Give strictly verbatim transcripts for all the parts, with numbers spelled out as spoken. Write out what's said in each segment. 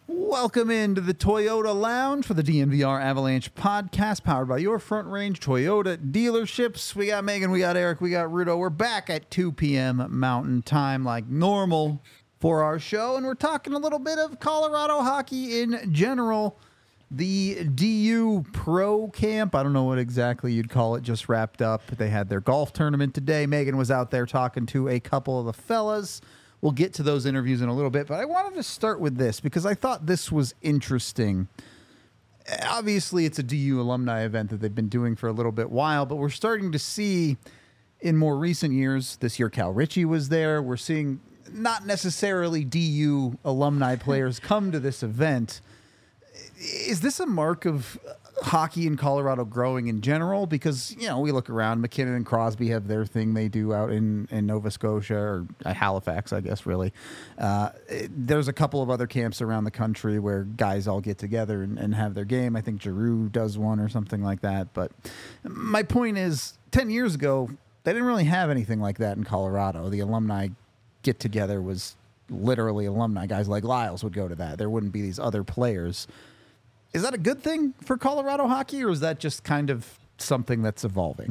Welcome into the Toyota Lounge for the D N V R Avalanche podcast, powered by your Front Range Toyota dealerships. We got Megan, we got Eric, we got Rudo. We're back at two p.m. Mountain Time like normal for our show, and we're talking a little bit of Colorado hockey in general. The D U Pro Camp, I don't know what exactly you'd call it, just wrapped up. They had their golf tournament today. Megan was out there talking to a couple of the fellas. We'll get to those interviews in a little bit, but I wanted to start with this because I thought this was interesting. Obviously, it's a D U alumni event that they've been doing for a little bit while, but we're starting to see in more recent years, this year Cal Ritchie was there, we're seeing not necessarily D U alumni players come to this event. Is this a mark of hockey in Colorado growing in general? Because, you know, we look around, McKinnon and Crosby have their thing they do out in, in Nova Scotia or Halifax, I guess, really. Uh, it, there's a couple of other camps around the country where guys all get together and, and have their game. I think Giroux does one or something like that. But my point is, ten years ago, they didn't really have anything like that in Colorado. The alumni get-together was literally alumni. Guys like Lyles would go to that. There wouldn't be these other players. Is that a good thing for Colorado hockey, or is that just kind of something that's evolving?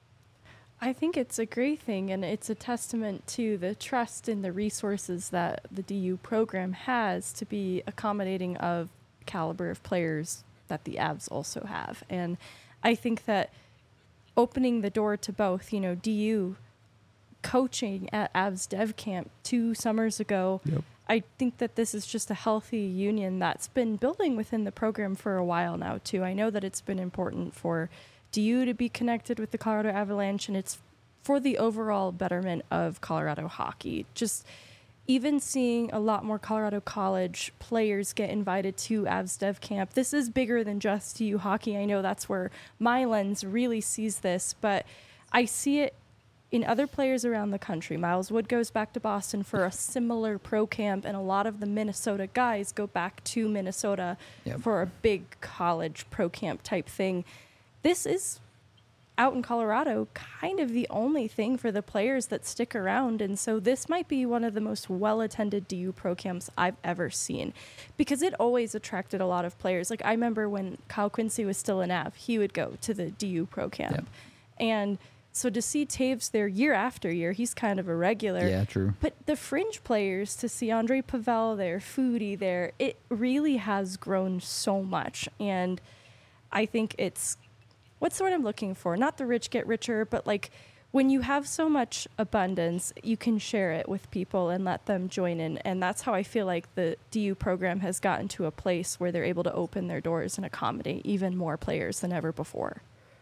I think it's a great thing, and it's a testament to the trust and the resources that the D U program has to be accommodating of caliber of players that the Avs also have. And I think that opening the door to both, you know, D U coaching at Avs Dev Camp two summers ago, yep. I think that this is just a healthy union that's been building within the program for a while now, too. I know that it's been important for D U to be connected with the Colorado Avalanche, and it's for the overall betterment of Colorado hockey. Just even seeing a lot more Colorado College players get invited to Avs Dev Camp. This is bigger than just D U hockey. I know that's where my lens really sees this, but I see it in other players around the country. Miles Wood goes back to Boston for a similar pro camp, and a lot of the Minnesota guys go back to Minnesota yep. for a big college pro camp type thing. This is, out in Colorado, kind of the only thing for the players that stick around, and so this might be one of the most well-attended D U pro camps I've ever seen, because it always attracted a lot of players. Like, I remember when Kyle Quincy was still in Av, he would go to the D U pro camp. Yep. And so to see Taves there year after year, he's kind of a regular. Yeah, true. But the fringe players, to see Andre Pavel there, Foodie there, it really has grown so much. And I think it's, what's the word I'm looking for? Not the rich get richer, but like when you have so much abundance, you can share it with people and let them join in. And that's how I feel like the D U program has gotten to a place where they're able to open their doors and accommodate even more players than ever before.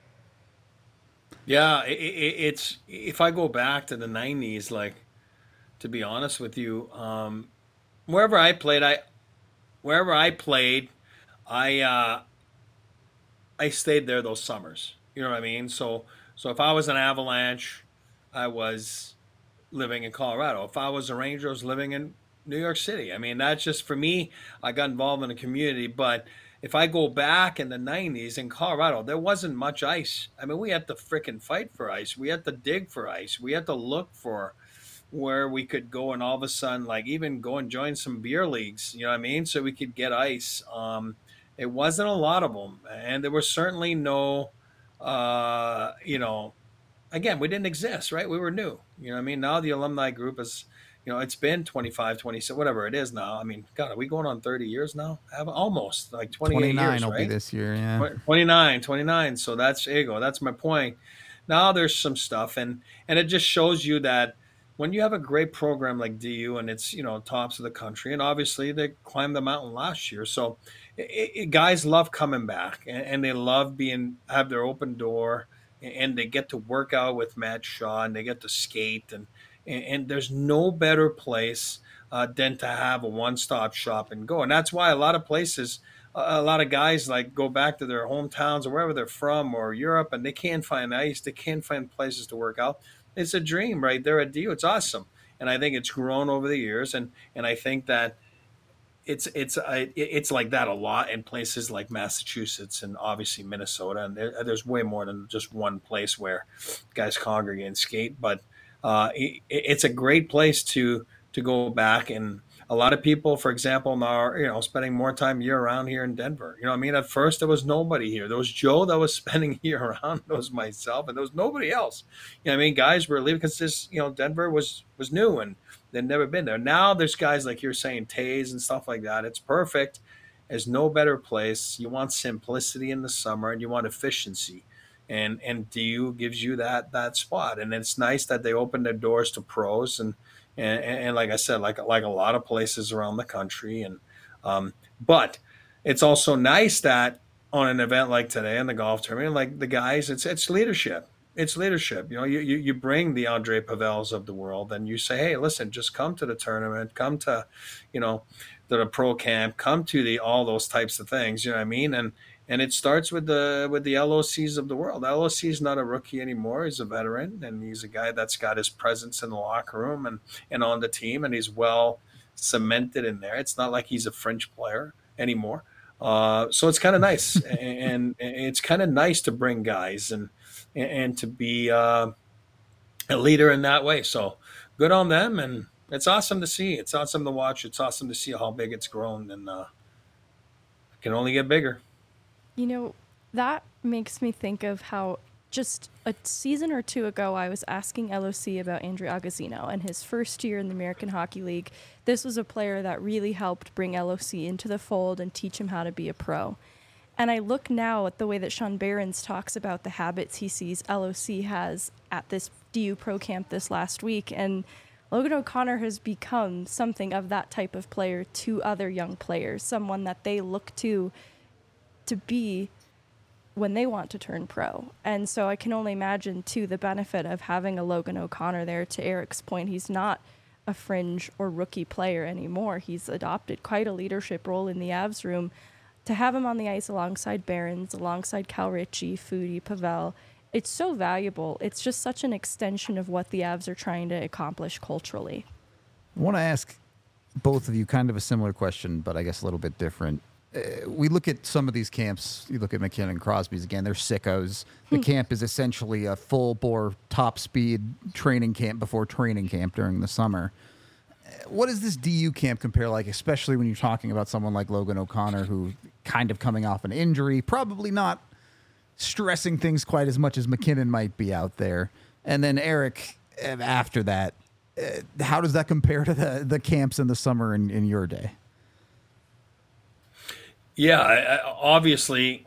Yeah, it, it, it's if I go back to the nineties, like, to be honest with you, um, wherever I played, I wherever I played, I uh, I stayed there those summers. You know what I mean? So so if I was an Avalanche, I was living in Colorado. If I was a Ranger, I was living in New York City. I mean, that's just, for me, I got involved in the community, but if I go back in the nineties in Colorado, there wasn't much ice. I mean, we had to frickin' fight for ice. We had to dig for ice. We had to look for where we could go, and all of a sudden, like, even go and join some beer leagues, you know what I mean? So we could get ice. Um, it wasn't a lot of them. And there was certainly no, uh, you know, again, we didn't exist, right? We were new. You know what I mean? Now the alumni group is, you know, it's been twenty-five, twenty-six, whatever it is now. I mean, God, are we going on thirty years now? Have almost like twenty-eight twenty-nine years, will right? be this year, yeah. twenty-nine, twenty-nine. So that's, there you go. That's my point. Now there's some stuff, and, and it just shows you that when you have a great program like D U and it's, you know, tops of the country, and obviously they climbed the mountain last year. So it, it, guys love coming back, and, and they love being, have their open door, and, and they get to work out with Matt Shaw, and they get to skate, and, and, and there's no better place uh, than to have a one-stop shop and go. And that's why a lot of places, a lot of guys like go back to their hometowns or wherever they're from, or Europe, and they can't find ice. They can't find places to work out. It's a dream right there at D U. It's awesome. And I think it's grown over the years. And, and I think that it's, it's, uh, it's like that a lot in places like Massachusetts and obviously Minnesota. And there, there's way more than just one place where guys congregate and skate, but uh, it, it's a great place to, to go back. And a lot of people, for example, now are, you know, spending more time year round here in Denver. You know what I mean? At first, there was nobody here. There was Joe that was spending year round. There was myself, and there was nobody else. You know what I mean? Guys were leaving because this, you know, Denver was was new and they'd never been there. Now there's guys like you're saying, Tays and stuff like that. It's perfect. There's no better place. You want simplicity in the summer, and you want efficiency. And and D U gives you that that spot. And it's nice that they open their doors to pros and and, and like I said, like like a lot of places around the country. And um, but it's also nice that on an event like today in the golf tournament, like the guys, it's it's leadership. It's leadership. You know, you, you you bring the Andre Pavels of the world, and you say, hey, listen, just come to the tournament, come to, you know, to the pro camp, come to the all those types of things. You know what I mean? And and it starts with the with the L O Cs of the world. L O C is not a rookie anymore. He's a veteran, and he's a guy that's got his presence in the locker room and, and on the team, and he's well cemented in there. It's not like he's a fringe player anymore. Uh, so it's kind of nice, and, and it's kind of nice to bring guys and and to be uh, a leader in that way. So good on them, and it's awesome to see. It's awesome to watch. It's awesome to see how big it's grown, and uh, it can only get bigger. You know, that makes me think of how just a season or two ago, I was asking L O C about Andrew Agozzino and his first year in the American Hockey League. This was a player that really helped bring L O C into the fold and teach him how to be a pro. And I look now at the way that Sean Behrens talks about the habits he sees L O C has at this D U Pro Camp this last week, and Logan O'Connor has become something of that type of player to other young players, someone that they look to to be when they want to turn pro. And so I can only imagine, too, the benefit of having a Logan O'Connor there. To Eric's point, he's not a fringe or rookie player anymore. He's adopted quite a leadership role in the Avs room. To have him on the ice alongside Behrens, alongside Cal Ritchie, Foodie, Pavel, it's so valuable. It's just such an extension of what the Avs are trying to accomplish culturally. I want to ask both of you kind of a similar question, but I guess a little bit different. Uh, we look at some of these camps. You look at MacKinnon and Crosby's again. They're sickos. The camp is essentially a full-bore, top-speed training camp before training camp during the summer. Uh, what does this D U camp compare like, especially when you're talking about someone like Logan O'Connor, who kind of coming off an injury, probably not stressing things quite as much as MacKinnon might be out there. And then Eric, after that, uh, how does that compare to the, the camps in the summer in, in your day? Yeah, I, I, obviously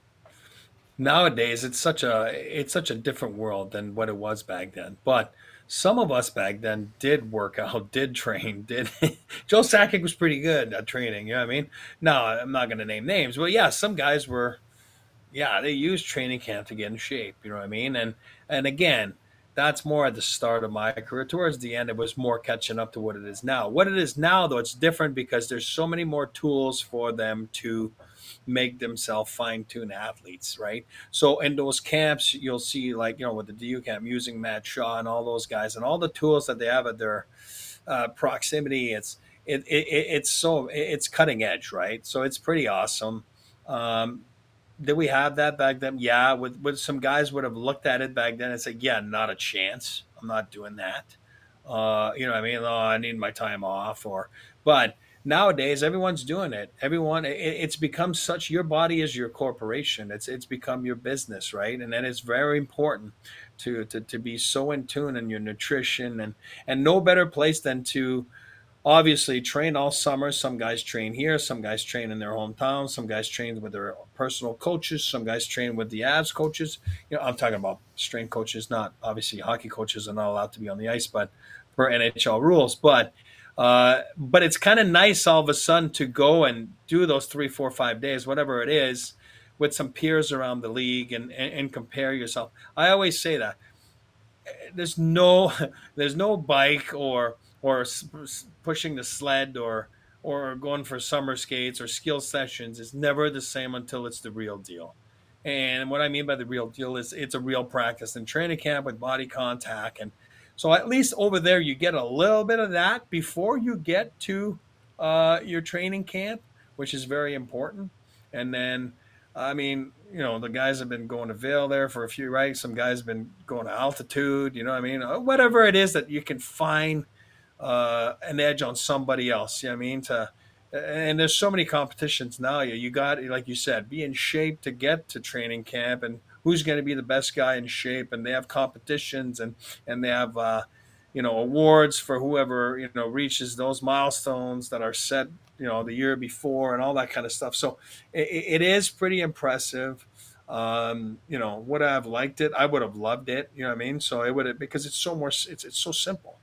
nowadays it's such a it's such a different world than what it was back then. But some of us back then did work out, did train, did Joe Sakic was pretty good at training, you know what I mean? No, I'm not gonna name names, but yeah, some guys were yeah, they used training camp to get in shape, you know what I mean? And and again, that's more at the start of my career. Towards the end, it was more catching up to what it is now. What it is now, though, it's different because there's so many more tools for them to make themselves fine-tuned athletes, right? So in those camps, you'll see, like, you know, with the D U camp, using Matt Shaw and all those guys and all the tools that they have at their uh, proximity. It's it, it it's so it's cutting edge, right? So it's pretty awesome. Um, Did we have that back then? Yeah, with, with some guys would have looked at it back then and said, yeah, not a chance. I'm not doing that. Uh, you know what I mean? Oh, I need my time off. Or, but nowadays, everyone's doing it. Everyone, it, it's become such, your body is your corporation. It's it's become your business, right? And then it's very important to, to, to be so in tune in your nutrition, and, and no better place than to obviously train all summer. Some guys train here, some guys train in their hometown, some guys train with their personal coaches, some guys train with the Avs coaches. You know, I'm talking about strength coaches, not obviously hockey coaches are not allowed to be on the ice, but per N H L rules. But uh, but it's kind of nice all of a sudden to go and do those three, four, five days, whatever it is, with some peers around the league and, and, and compare yourself. I always say that there's no there's no bike or or pushing the sled or or going for summer skates or skill sessions is never the same until it's the real deal. And what I mean by the real deal is it's a real practice in training camp with body contact. And so at least over there you get a little bit of that before you get to uh, your training camp, which is very important. And then, I mean, you know, the guys have been going to Vail there for a few, right? Some guys have been going to altitude, you know what I mean? Whatever it is that you can find uh, an edge on somebody else. You know what I mean? To and there's so many competitions now. You you got, like you said, be in shape to get to training camp, and who's going to be the best guy in shape. And they have competitions, and and they have uh, you know awards for whoever you know reaches those milestones that are set you know the year before, and all that kind of stuff. So it, it is pretty impressive. Um, you know, would I have liked it? I would have loved it. You know what I mean? So it would have, because it's so more. It's it's so simple.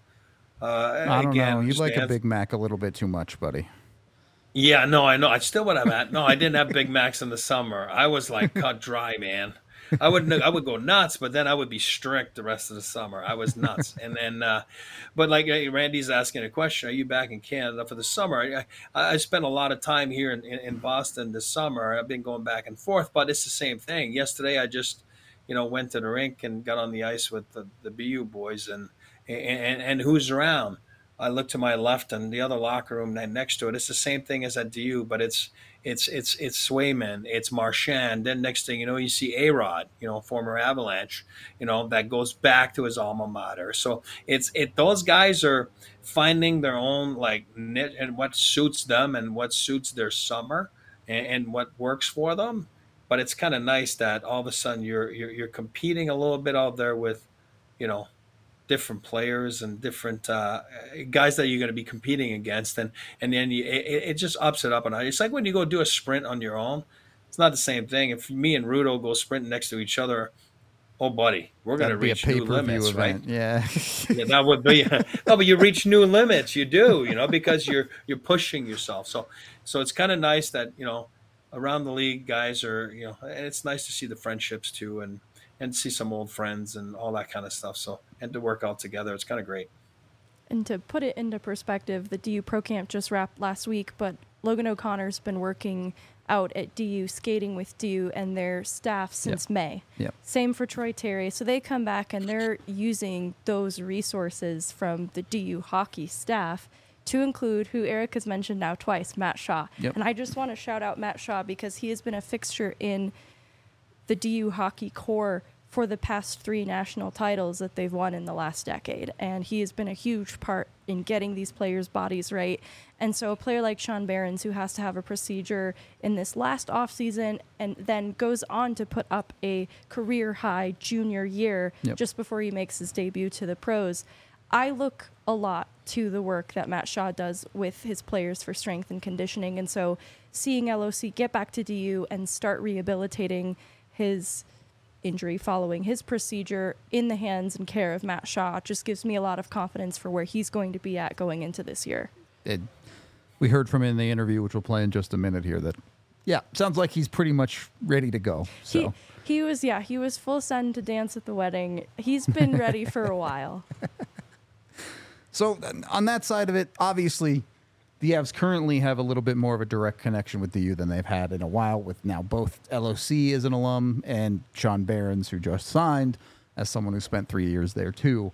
Uh, I don't again, know. You just like to a answer- Big Mac a little bit too much, buddy. Yeah, no, I know. I still would have had. No, I didn't have Big Macs in the summer. I was like cut dry, man. I would I would go nuts, but then I would be strict the rest of the summer. I was nuts, and then, uh, but like uh, Randy's asking a question: are you back in Canada for the summer? I, I spent a lot of time here in, in, in Boston this summer. I've been going back and forth, but it's the same thing. Yesterday, I just, you know, went to the rink and got on the ice with the, the B U boys, and and and who's around. I look to my left and the other locker room next to it. It's the same thing as at D U, but it's it's it's it's Swayman, it's Marchand. Then next thing you know, you see A-Rod, you know, former Avalanche, you know, that goes back to his alma mater. So it's it those guys are finding their own like niche and what suits them and what suits their summer, and, and what works for them. But it's kind of nice that all of a sudden you're, you're you're competing a little bit out there with, you know, different players and different uh, guys that you're going to be competing against, and and then you, it, it just ups it up. And it's like when you go do a sprint on your own, it's not the same thing. If me and Rudo go sprinting next to each other, oh buddy, we're going to That'd be a reach new pay-per-view limits, event. right? Yeah. Yeah, that would be no, but you reach new limits. You do, you know, because you're you're pushing yourself. So so it's kind of nice that you know around the league guys are you know, and it's nice to see the friendships too, and and see some old friends and all that kind of stuff. So, and to work out together, it's kind of great. And to put it into perspective, the D U Pro Camp just wrapped last week, but Logan O'Connor's been working out at D U, skating with D U and their staff since Yep. May. Yep. Same for Troy Terry. So they come back and they're using those resources from the D U hockey staff to include who Eric has mentioned now twice, Matt Shaw. Yep. And I just want to shout out Matt Shaw because he has been a fixture in the D U hockey core for the past three national titles that they've won in the last decade. And he has been a huge part in getting these players' bodies right. And so a player like Sean Behrens, who has to have a procedure in this last offseason and then goes on to put up a career-high junior year Yep. just before he makes his debut to the pros, I look a lot to the work that Matt Shaw does with his players for strength and conditioning. And so seeing L O C get back to D U and start rehabilitating his injury following his procedure in the hands and care of Matt Shaw just gives me a lot of confidence for where he's going to be at going into this year. It, we heard from him in the interview, which we'll play in just a minute here, that, yeah, sounds like he's pretty much ready to go. So He, he was, yeah, he was full send to dance at the wedding. He's been ready for a while. So on that side of it, obviously, the Avs currently have a little bit more of a direct connection with D U than they've had in a while, with now both L O C as an alum and Sean Behrens, who just signed, as someone who spent three years there too.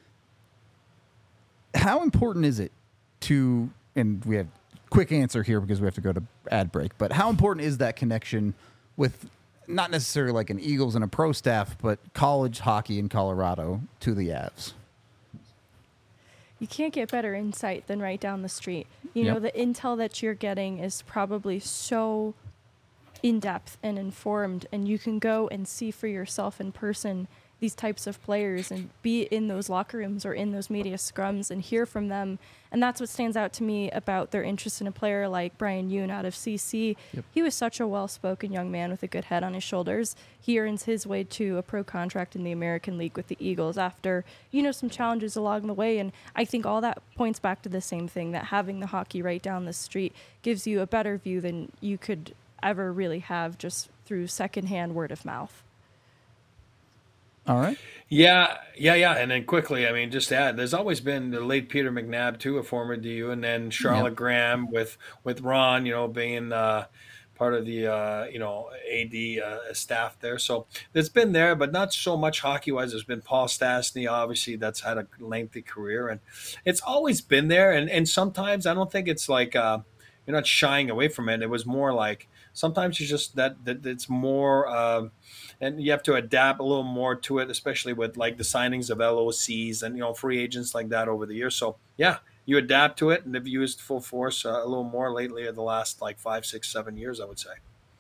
How important is it to, and we have a quick answer here because we have to go to ad break, but how important is that connection with not necessarily like an Eagles and a pro staff, but college hockey in Colorado to the Avs? You can't get better insight than right down the street. You Yep. know, the intel that you're getting is probably so in-depth and informed, and you can go and see for yourself in person these types of players and be in those locker rooms or in those media scrums and hear from them. And that's what stands out to me about their interest in a player like Brian Yoon out of C C. Yep. He was such a well-spoken young man with a good head on his shoulders. He earns his way to a pro contract in the American League with the Eagles after, you know, some challenges along the way. And I think all that points back to the same thing, that having the hockey right down the street gives you a better view than you could ever really have just through secondhand word of mouth. All right. Yeah, yeah, yeah. And then quickly, I mean, just to add, there's always been the late Peter McNabb too, a former D U, and then Charlotte Yep. Graham with with Ron, you know, being uh, part of the uh, you know A D uh, staff there. So it's been there, but not so much hockey wise. There's been Paul Stastny, obviously, that's had a lengthy career, and it's always been there. And and sometimes I don't think it's like uh, you're not shying away from it. It was more like sometimes you just that that it's more. Uh, And you have to adapt a little more to it, especially with like the signings of L O Cs and, you know, free agents like that over the years. So, yeah, you adapt to it, and they've used full force uh, a little more lately in the last like five, six, seven years, I would say.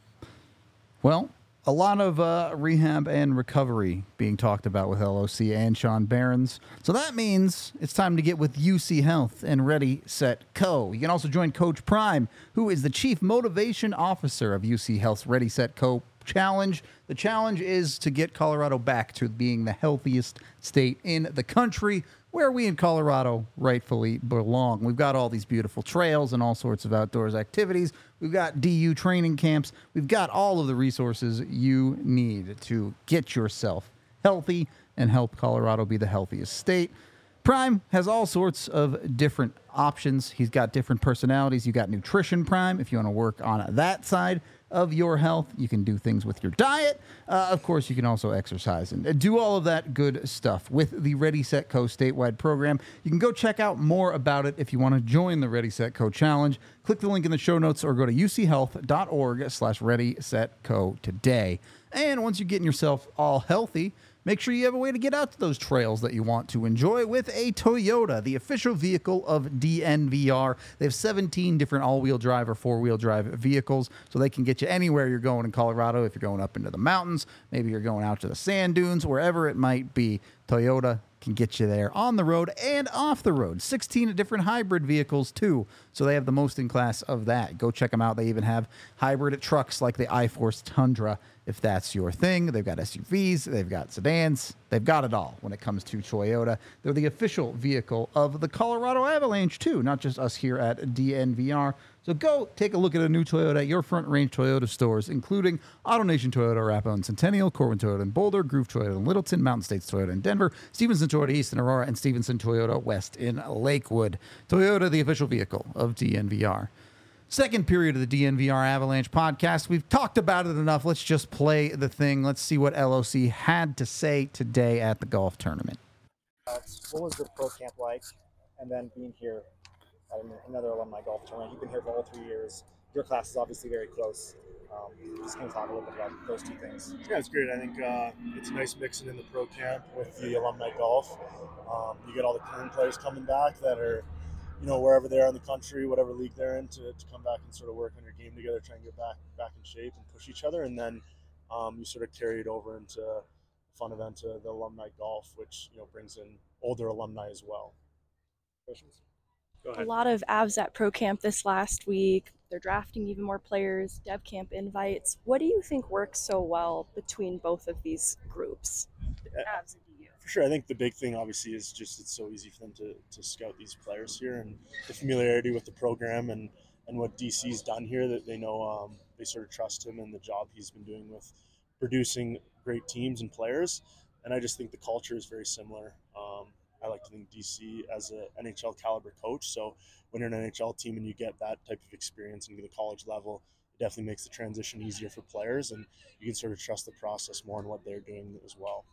Well, a lot of uh, rehab and recovery being talked about with L O C and Sean Behrens. So that means it's time to get with U C Health and Ready, Set, Co. You can also join Coach Prime, who is the Chief Motivation Officer of U C Health's Ready, Set, Co. Challenge. The challenge is to get Colorado back to being the healthiest state in the country, where we in Colorado rightfully belong. We've got all these beautiful trails and all sorts of outdoors activities. We've got D U training camps. We've got all of the resources you need to get yourself healthy and help Colorado be the healthiest state. Prime has all sorts of different options. He's got different personalities. You got Nutrition Prime if you want to work on that side of your health. You can do things with your diet. Uh, of course, you can also exercise and do all of that good stuff with the Ready, Set, Co. statewide program. You can go check out more about it if you want to join the Ready, Set, Co. challenge. Click the link in the show notes or go to uchealth.org slash Ready, Set, Co. today. And once you're getting yourself all healthy, make sure you have a way to get out to those trails that you want to enjoy with a Toyota, the official vehicle of D N V R. They have seventeen different all-wheel drive or four-wheel drive vehicles, so they can get you anywhere you're going in Colorado. If you're going up into the mountains, maybe you're going out to the sand dunes, wherever it might be, Toyota can get you there on the road and off the road. sixteen different hybrid vehicles, too, so they have the most in class of that. Go check them out. They even have hybrid trucks like the iForce Tundra, if that's your thing. They've got S U Vs, they've got sedans, they've got it all when it comes to Toyota. They're the official vehicle of the Colorado Avalanche, too, not just us here at D N V R. So go take a look at a new Toyota at your Front Range Toyota stores, including AutoNation Toyota, Arapahoe and Centennial, Corwin Toyota in Boulder, Groove Toyota in Littleton, Mountain States Toyota in Denver, Stevenson Toyota East in Aurora, and Stevenson Toyota West in Lakewood. Toyota, the official vehicle of D N V R. Second period of the D N V R Avalanche podcast. We've talked about it enough. Let's just play the thing. Let's see what L O C had to say today at the golf tournament. Uh, what was the pro camp like? And then being here at another alumni golf tournament. You've been here for all three years. Your class is obviously very close. Um, just can you talk a little bit about those two things? Yeah, it's great. I think uh, it's nice mixing in the pro camp with the alumni golf. Um, you get all the current players coming back that are, you know, wherever they are in the country, whatever league they're in, to, to come back and sort of work on your game together, try and get back back in shape and push each other. And then um, you sort of carry it over into a fun event to the alumni golf, which, you know, brings in older alumni as well. Questions? Go ahead. A lot of Avs at Pro Camp this last week. They're drafting even more players, Dev Camp invites. What do you think works so well between both of these groups, Avs and D U? For sure. I think the big thing, obviously, is just it's so easy for them to, to scout these players here, and the familiarity with the program and, and what D C's done here, that they know um, they sort of trust him and the job he's been doing with producing great teams and players. And I just think the culture is very similar. Um, I like to think D C as an N H L caliber coach. So when you're an N H L team and you get that type of experience into the college level, it definitely makes the transition easier for players, and you can sort of trust the process more in what they're doing as well.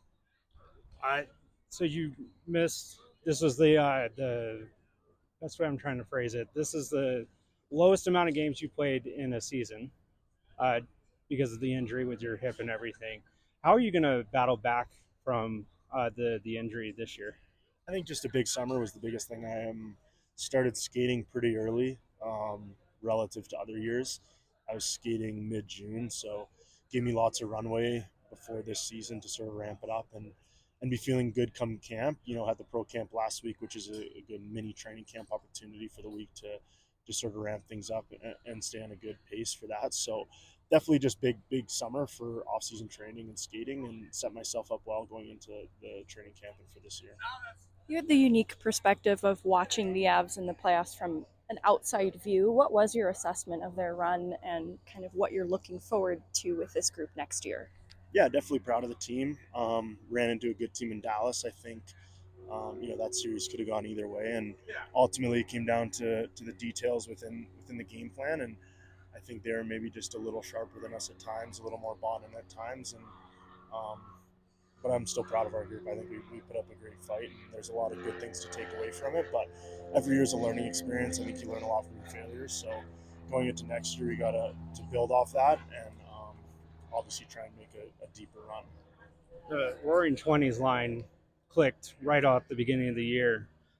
I so you missed. This was the uh, the that's what I'm trying to phrase it. This is the lowest amount of games you played in a season uh, because of the injury with your hip and everything. How are you going to battle back from uh, the the injury this year? I think just a big summer was the biggest thing. I um, started skating pretty early um, relative to other years. I was skating mid-June, so gave me lots of runway before this season to sort of ramp it up and, and be feeling good come camp. You know, had the pro camp last week, which is a, a good mini training camp opportunity for the week to just sort of ramp things up and, and stay on a good pace for that. So definitely just big, big summer for off-season training and skating, and set myself up well going into the training camp and for this year. You had the unique perspective of watching the Avs in the playoffs from an outside view. What was your assessment of their run and kind of what you're looking forward to with this group next year? Yeah, definitely proud of the team. Um, ran into a good team in Dallas. I think, um, you know, that series could have gone either way, and ultimately it came down to, to the details within within the game plan. And I think they're maybe just a little sharper than us at times, a little more bonding at times. And um, but I'm still proud of our group. I think we, we put up a great fight, and there's a lot of good things to take away from it. But every year is a learning experience. I think you learn a lot from your failures. So going into next year, we got to to build off that and um, obviously try and make a, a deeper run. The Roaring Twenties line clicked right off the beginning of the year.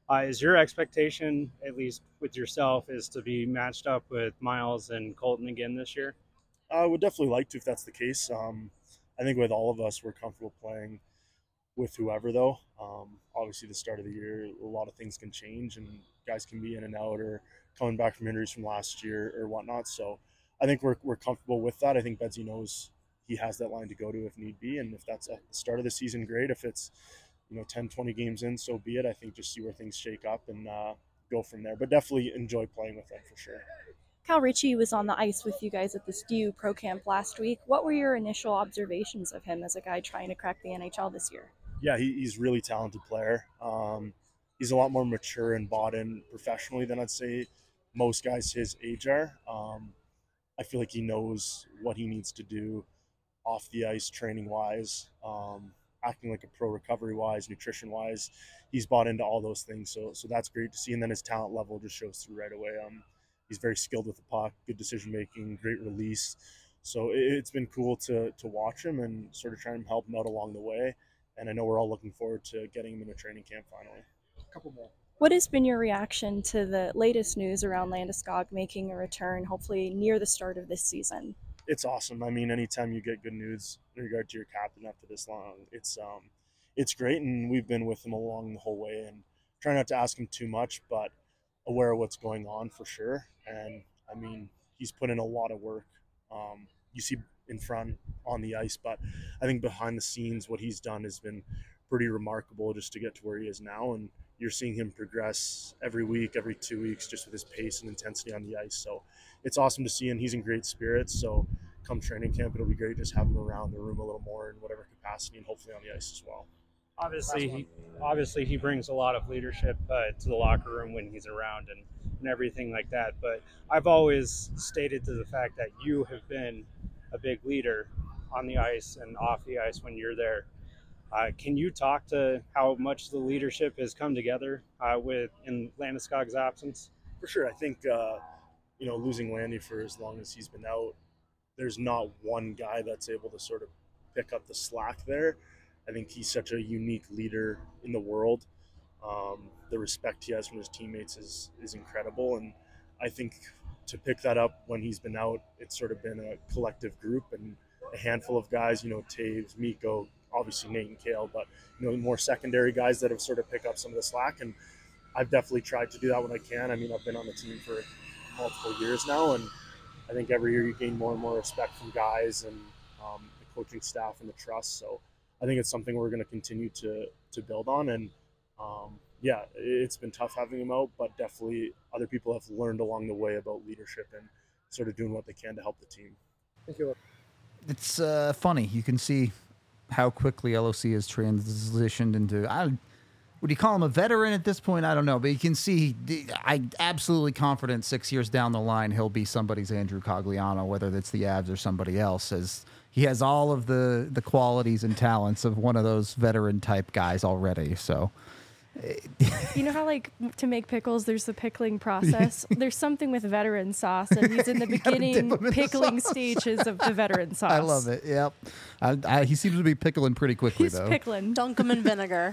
Uh, is your expectation, at least with yourself, is to be matched up with Miles and Colton again this year? I would definitely like to if that's the case. Um, I think with all of us, we're comfortable playing with whoever, though. Um, obviously, the start of the year, a lot of things can change, and guys can be in and out or coming back from injuries from last year or whatnot. So I think we're, we're comfortable with that. I think Bedsy knows he has that line to go to if need be, and if that's at the start of the season, great. If it's you know ten, twenty games in, so be it. I think just see where things shake up and uh, go from there. But definitely enjoy playing with them for sure. Cal Ritchie was on the ice with you guys at the S T U Pro Camp last week. What were your initial observations of him as a guy trying to crack the N H L this year? Yeah, he, he's a really talented player. Um, he's a lot more mature and bought in professionally than I'd say most guys his age are. Um, I feel like he knows what he needs to do off the ice, training wise, um, acting like a pro, recovery wise, nutrition wise. He's bought into all those things, so so that's great to see. And then his talent level just shows through right away. Um, he's very skilled with the puck, good decision making, great release. So it, it's been cool to to watch him and sort of try and help him out along the way. And I know we're all looking forward to getting him in a training camp finally. A couple more. What has been your reaction to the latest news around Landeskog making a return, hopefully near the start of this season? It's awesome. I mean, anytime you get good news in regard to your captain after this long, it's um, it's great. And we've been with him along the whole way and try not to ask him too much, but aware of what's going on for sure. And I mean, he's put in a lot of work. Um, you see in front on the ice, but I think behind the scenes, what he's done has been pretty remarkable just to get to where he is now. And you're seeing him progress every week, every two weeks, just with his pace and intensity on the ice. So it's awesome to see, and he's in great spirits. So come training camp, it'll be great just have him around the room a little more in whatever capacity, and hopefully on the ice as well. Obviously, he, obviously he brings a lot of leadership uh, to the locker room when he's around and, and everything like that. But I've always stated to the fact that you have been a big leader on the ice and off the ice when you're there. Uh, can you talk to how much the leadership has come together uh, with in Landeskog's absence? For sure. I think, uh, you know, losing Landy for as long as he's been out, there's not one guy that's able to sort of pick up the slack there. I think he's such a unique leader in the world. Um, the respect he has from his teammates is is incredible. And I think to pick that up when he's been out, it's sort of been a collective group and a handful of guys, you know, Taves, Mikko, obviously Nate and Kale, but, you know, more secondary guys that have sort of picked up some of the slack. And I've definitely tried to do that when I can. I mean, I've been on the team for multiple years now, and I think every year you gain more and more respect from guys and um, the coaching staff and the trust. So I think it's something we're going to continue to to build on. And um, yeah, it's been tough having him out, but definitely other people have learned along the way about leadership and sort of doing what they can to help the team. Thank you. It's uh, funny. You can see how quickly L O C has transitioned into, I, would you call him a veteran at this point? I don't know, but you can see, I'm absolutely confident six years down the line, he'll be somebody's Andrew Cogliano, whether that's the Avs or somebody else, as he has all of the, the qualities and talents of one of those veteran type guys already. So, you know how, like, to make pickles, there's the pickling process. There's something with veteran sauce, and he's in the beginning pickling stages of the veteran sauce. I love it. Yep. I, I, he seems to be pickling pretty quickly, he's though. He's pickling. Dunk him in vinegar.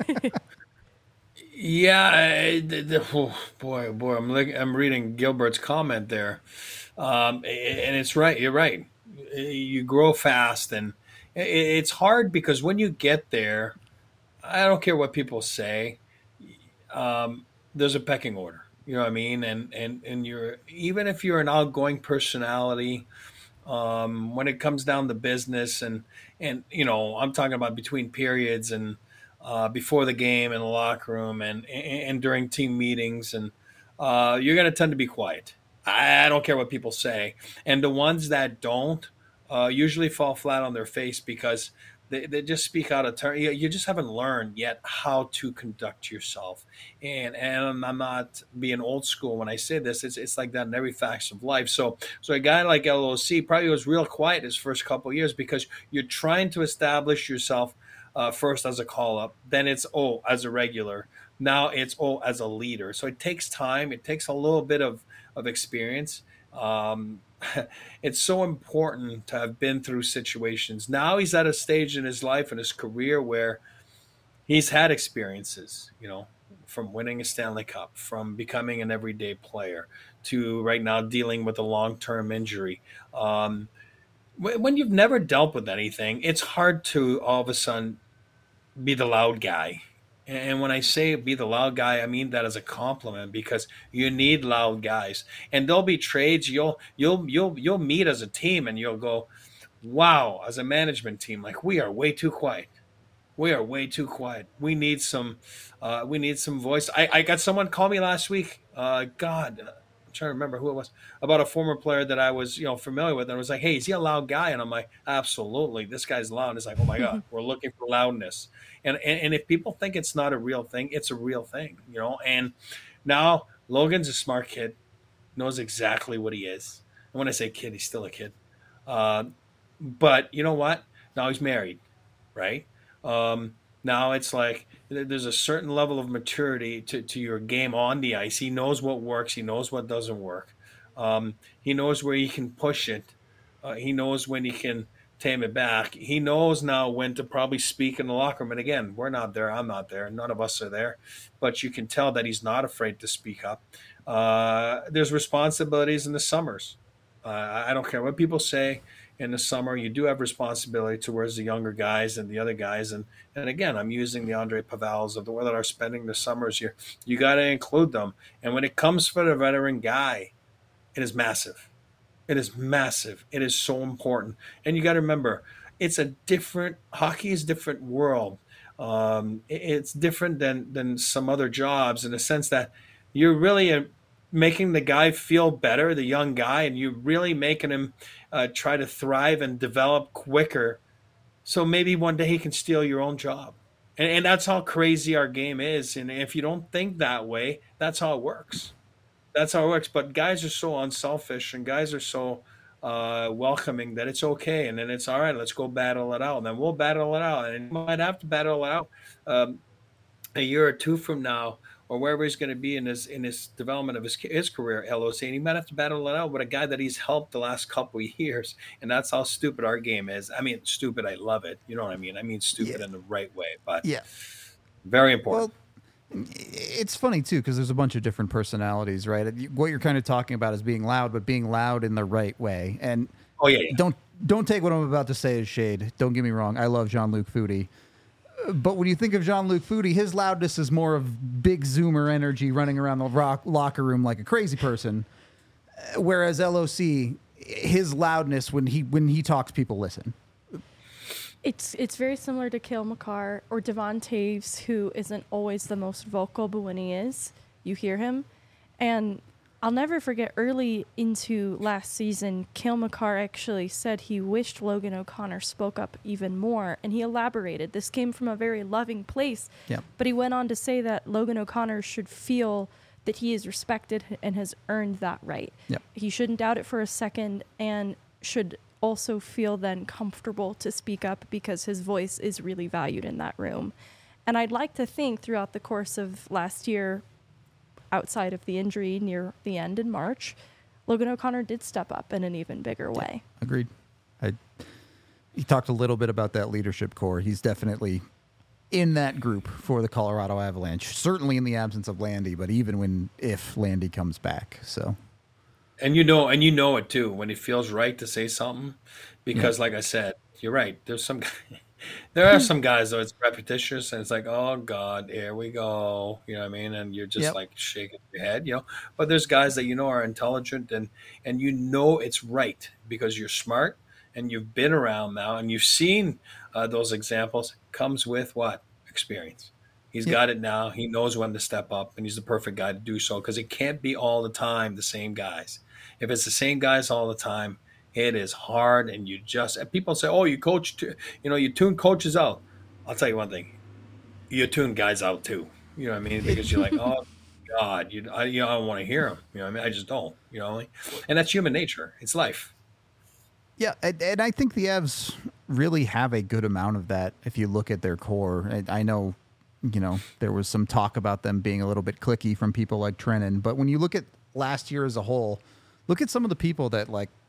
Yeah, I, the, the, oh, boy, boy, I'm like, I'm reading Gilbert's comment there, um, and it's right. You're right. You grow fast, and it's hard because when you get there, I don't care what people say. Um, there's a pecking order, you know what I mean? And and and you're, even if you're an outgoing personality, um, when it comes down to business, and and you know, I'm talking about between periods and uh, before the game in the locker room and and, and during team meetings, and uh, you're going to tend to be quiet. I, I don't care what people say, and the ones that don't uh, usually fall flat on their face because They, they just speak out of turn. You, you just haven't learned yet how to conduct yourself. And and I'm not being old school when I say this. It's it's like that in every facet of life. So so a guy like L O C probably was real quiet his first couple of years because you're trying to establish yourself uh, first as a call-up. Then it's, oh, as a regular. Now it's, oh, as a leader. So it takes time. It takes a little bit of, of experience. Um It's so important to have been through situations. Now he's at a stage in his life and his career where he's had experiences, you know, from winning a Stanley Cup, from becoming an everyday player, to right now dealing with a long-term injury. Um, when you've never dealt with anything, it's hard to all of a sudden be the loud guy. And when I say be the loud guy, I mean that as a compliment, because you need loud guys. And there'll be trades you'll you'll you'll you'll meet as a team, and you'll go, wow, as a management team, like, we are way too quiet. We are way too quiet. We need some uh, we need some voice. I, I got someone call me last week. Uh, God, I'm trying to remember who it was, about a former player that I was, you know, familiar with. And I was like, hey, is he a loud guy? And I'm like, absolutely. This guy's loud. It's like, oh my God, we're looking for loudness. And, and and if people think it's not a real thing, it's a real thing, you know. And now Logan's a smart kid, knows exactly what he is. And when I say kid, he's still a kid. Uh, but you know what? Now he's married, right? Um, now it's like there's a certain level of maturity to, to your game on the ice. He knows what works. He knows what doesn't work. Um, he knows where he can push it. Uh, he knows when he can tame it back. He knows now when to probably speak in the locker room. And again, we're not there. I'm not there. None of us are there. But you can tell that he's not afraid to speak up. Uh, there's responsibilities in the summers. Uh, I don't care what people say. In the summer, you do have responsibility towards the younger guys and the other guys. And, and again, I'm using the Andre Pavals of the world that are spending the summers here. You got to include them. And when it comes for the veteran guy, it is massive. It is massive. It is so important. And you got to remember, it's a different – hockey is a different world. Um, it, it's different than, than some other jobs in the sense that you're really a, making the guy feel better, the young guy, and you're really making him uh, try to thrive and develop quicker. So maybe one day he can steal your own job. And, and that's how crazy our game is. And if you don't think that way, that's how it works. That's how it works. But guys are so unselfish, and guys are so uh, welcoming that it's okay. And then it's all right, let's go battle it out. And then we'll battle it out. And you might have to battle it out um, a year or two from now, or wherever he's going to be in his in his development of his his career, L O C, and he might have to battle it out with a guy that he's helped the last couple of years, and that's how stupid our game is. I mean, stupid. I love it. You know what I mean? I mean, stupid yeah. in the right way, but yeah, very important. Well, it's funny too because there's a bunch of different personalities, right? What you're kind of talking about is being loud, but being loud in the right way. And oh yeah, yeah. don't don't take what I'm about to say as shade. Don't get me wrong. I love Jean-Luc Foudy. But when you think of Jean-Luc Foudy, his loudness is more of big zoomer energy running around the rock locker room like a crazy person. Whereas L O C, his loudness when he when he talks, people listen. It's it's very similar to Cale Makar or Devon Toews, who isn't always the most vocal, but when he is, you hear him. And I'll never forget early into last season, Cale Makar actually said he wished Logan O'Connor spoke up even more, and he elaborated. This came from a very loving place, yep. But he went on to say that Logan O'Connor should feel that he is respected and has earned that right. Yep. He shouldn't doubt it for a second and should also feel then comfortable to speak up because his voice is really valued in that room. And I'd like to think throughout the course of last year, outside of the injury near the end in March, Logan O'Connor did step up in an even bigger way. Agreed. I, he talked a little bit about that leadership core. He's definitely in that group for the Colorado Avalanche, certainly in the absence of Landy, but even when if Landy comes back. So, and you know, and you know it too when it feels right to say something, because yeah. like I said, you're right. There's some. There are some guys, though, it's repetitious, and it's like, oh, God, here we go. You know what I mean? And you're just, yep. like, shaking your head, you know? But there's guys that you know are intelligent, and, and you know it's right because you're smart, and you've been around now, and you've seen uh, those examples. Comes with what? Experience. He's yep. got it now. He knows when to step up, and he's the perfect guy to do so because it can't be all the time the same guys. If it's the same guys all the time, it is hard, and you just and people say, "Oh, you coach, t- you know, you tune coaches out." I'll tell you one thing: you tune guys out too. You know what I mean? Because you're like, "Oh God, you, I, you know, I don't want to hear them." You know what I mean? I just don't. You know, and that's human nature. It's life. Yeah, and, and I think the Avs really have a good amount of that. If you look at their core, I, I know, you know, there was some talk about them being a little bit cliquey from people like Trennan, but when you look at last year as a whole, look at some of the people that like.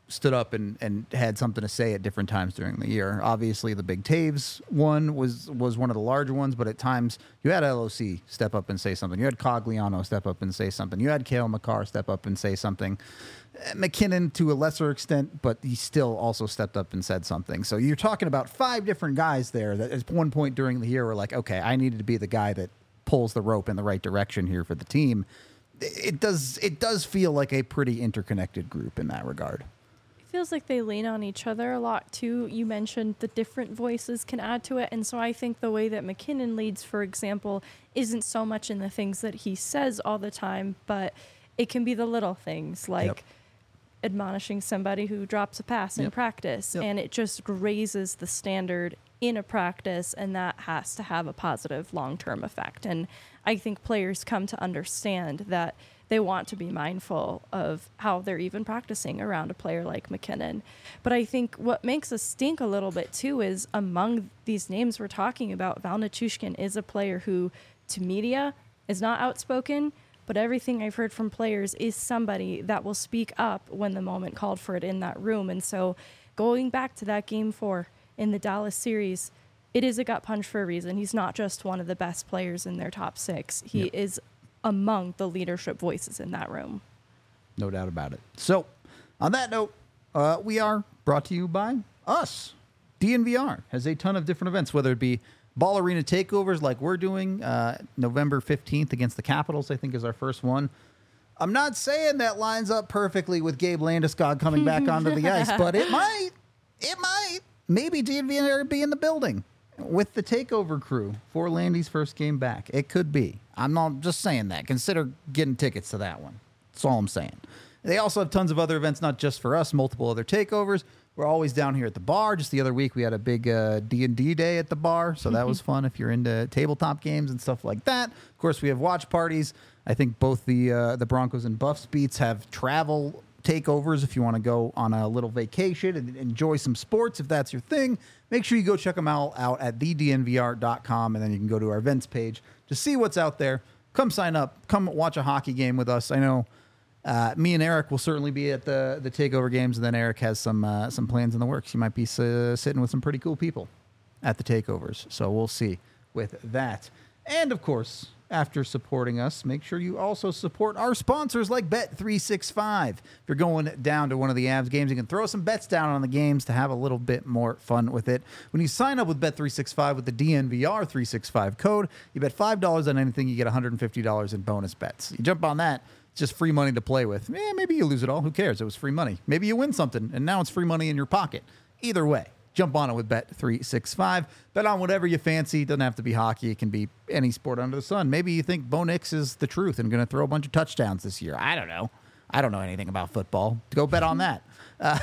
stood up and, and had something to say at different times during the year. Obviously, the Big Taves one was was one of the larger ones, but at times you had L O C step up and say something. You had Cogliano step up and say something. You had Cale Makar step up and say something. McKinnon to a lesser extent, but he still also stepped up and said something. So you're talking about five different guys there that at one point during the year were like, okay, I needed to be the guy that pulls the rope in the right direction here for the team. It does it does feel like a pretty interconnected group in that regard. It feels like they lean on each other a lot too. You mentioned the different voices can add to it, and so I think the way that McKinnon leads, for example, isn't so much in the things that he says all the time, but it can be the little things like yep. admonishing somebody who drops a pass in yep. practice, yep. and it just raises the standard in a practice, and that has to have a positive long-term effect. And I think players come to understand that they want to be mindful of how they're even practicing around a player like McKinnon. But I think what makes us stink a little bit too is among these names we're talking about, Val Nichushkin is a player who to media is not outspoken, but everything I've heard from players is somebody that will speak up when the moment called for it in that room. And so going back to that game four in the Dallas series, it is a gut punch for a reason. He's not just one of the best players in their top six. He yep. is among the leadership voices in that room. No doubt about it. So on that note, uh, we are brought to you by us. D N V R has a ton of different events, whether it be Ball Arena takeovers like we're doing uh, November fifteenth against the Capitals, I think is our first one. I'm not saying that lines up perfectly with Gabe Landeskog coming back onto the ice, but it might. It might. Maybe D N V R be in the building with the takeover crew for Landy's first game back. It could be. I'm not just saying that. Consider getting tickets to that one. That's all I'm saying. They also have tons of other events, not just for us, multiple other takeovers. We're always down here at the bar. Just the other week, we had a big uh, D and D day at the bar, so that was fun if you're into tabletop games and stuff like that. Of course, we have watch parties. I think both the uh, the Broncos and Buffs beats have travel takeovers if you want to go on a little vacation and enjoy some sports, if that's your thing. Make sure you go check them all out at the d n v r dot com, and then you can go to our events page to see what's out there. Come sign up. Come watch a hockey game with us. I know uh, me and Eric will certainly be at the the takeover games, and then Eric has some uh, some plans in the works. You might be uh, sitting with some pretty cool people at the takeovers, so we'll see with that. And of course, after supporting us, make sure you also support our sponsors like Bet three sixty-five. If you're going down to one of the Avs games, you can throw some bets down on the games to have a little bit more fun with it. When you sign up with Bet three sixty-five with the D N V R three sixty-five code, you bet five dollars on anything, you get one hundred fifty dollars in bonus bets. You jump on that, it's just free money to play with. Eh, maybe you lose it all. Who cares? It was free money. Maybe you win something, and now it's free money in your pocket. Either way, jump on it with Bet three sixty-five. Bet on whatever you fancy. It doesn't have to be hockey. It can be any sport under the sun. Maybe you think Bo Nix is the truth and going to throw a bunch of touchdowns this year. I don't know. I don't know anything about football. Go bet on that. Uh,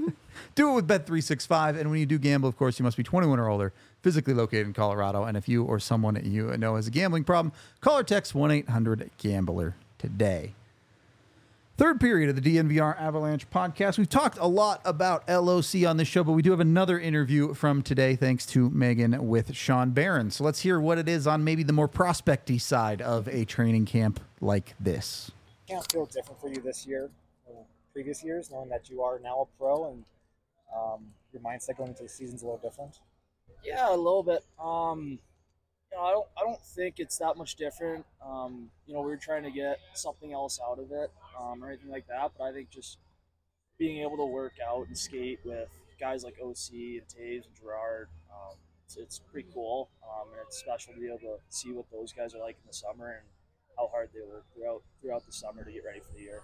do it with Bet three sixty-five. And when you do gamble, of course, you must be twenty-one or older, physically located in Colorado. And if you or someone that you know has a gambling problem, call or text one eight hundred gambler today. Third period of the D N V R Avalanche podcast. We've talked a lot about L O C on this show, but we do have another interview from today, thanks to Megan, with Sean Barron. So let's hear what it is on maybe the more prospecty side of a training camp like this. Can't feel different for you this year than previous years, knowing that you are now a pro and um, your mindset going into the season's a little different? Yeah, a little bit. Um, you know, I don't, I don't think it's that much different. Um, you know, we were trying to get something else out of it, um, or anything like that. But I think just being able to work out and skate with guys like O C and Taves and Gerard, um, it's, it's pretty cool. Um, and it's special to be able to see what those guys are like in the summer and how hard they work throughout throughout the summer to get ready for the year.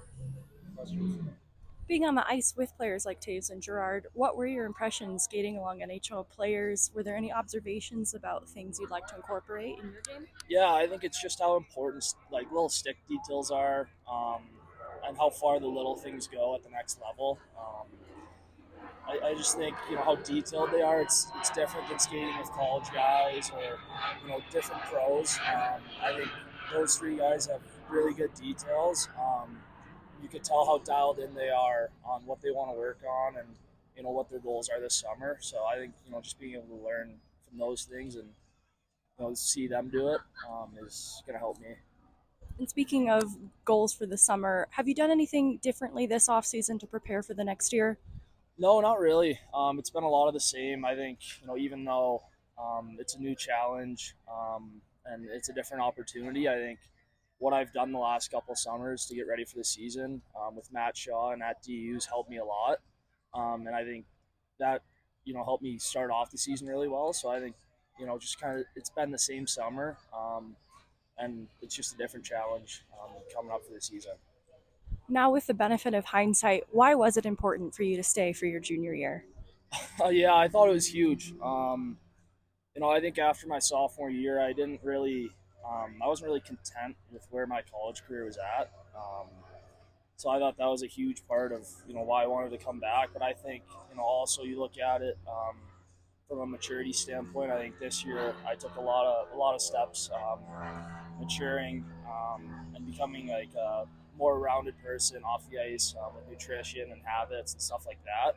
Being on the ice with players like Taves and Gerard, what were your impressions skating along N H L players? Were there any observations about things you'd like to incorporate in your game? Yeah, I think it's just how important like little stick details are, um, and how far the little things go at the next level. Um, I, I just think, you know, how detailed they are. It's it's different than skating with college guys or, you know, different pros. Um, I think those three guys have really good details. Um, you could tell how dialed in they are on what they want to work on and, you know, what their goals are this summer. So I think, you know, just being able to learn from those things and, you know, see them do it um, is going to help me. And speaking of goals for the summer, have you done anything differently this offseason to prepare for the next year? No, not really. Um, it's been a lot of the same. I think, you know, even though um, it's a new challenge um, and it's a different opportunity, I think what I've done the last couple of summers to get ready for the season um, with Matt Shaw and at D U's helped me a lot. Um, and I think that, you know, helped me start off the season really well. So I think, you know, just kind of it's been the same summer um, and it's just a different challenge um, coming up for the season. Now, with the benefit of hindsight, why was it important for you to stay for your junior year? Uh, yeah, I thought it was huge. Um, you know, I think after my sophomore year, I didn't really, um, I wasn't really content with where my college career was at. Um, so I thought that was a huge part of, you know, why I wanted to come back. But I think, you know, also you look at it um, from a maturity standpoint. I think this year I took a lot of a lot of steps, um, maturing um, and becoming like a more rounded person off the ice um, with nutrition and habits and stuff like that.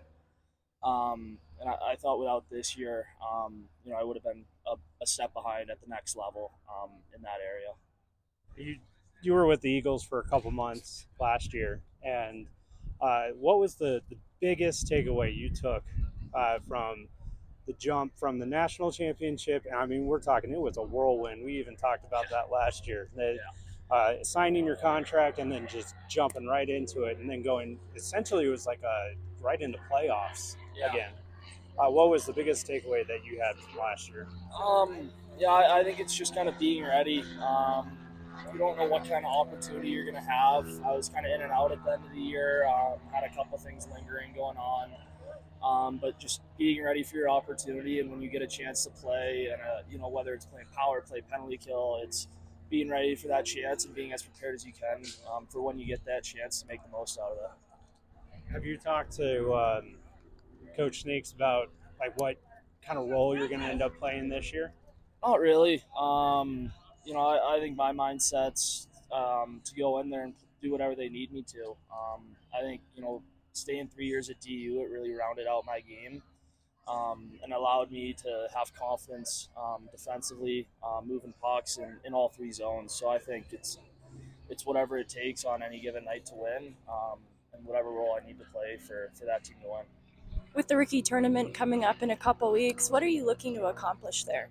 Um, and I, I thought without this year, um, you know, I would have been a, a step behind at the next level um, in that area. You you were with the Eagles for a couple months last year, and uh, what was the, the biggest takeaway you took uh, from the jump from the national championship? And I mean, we're talking, it was a whirlwind. We even talked about that last year. The, uh, signing your contract and then just jumping right into it, and then going, essentially it was like a right into playoffs Yeah. again. Uh, what was the biggest takeaway that you had from last year? Um, yeah, I, I think it's just kind of being ready. Um, you don't know what kind of opportunity you're going to have. I was kind of in and out at the end of the year. Um, had a couple things lingering going on. Um, but just being ready for your opportunity, and when you get a chance to play, and uh, you know, whether it's playing power play, penalty kill, it's being ready for that chance and being as prepared as you can um, for when you get that chance to make the most out of it. Have you talked to um, Coach Snakes about like what kind of role you're going to end up playing this year? Not really. Um, you know, I, I think my mindset's um, to go in there and do whatever they need me to. Um, I think, you know, staying three years at D U, it really rounded out my game um, and allowed me to have confidence um, defensively, uh, moving pucks in, in all three zones. So I think it's it's whatever it takes on any given night to win um, and whatever role I need to play for, for that team to win. With the rookie tournament coming up in a couple weeks, what are you looking to accomplish there?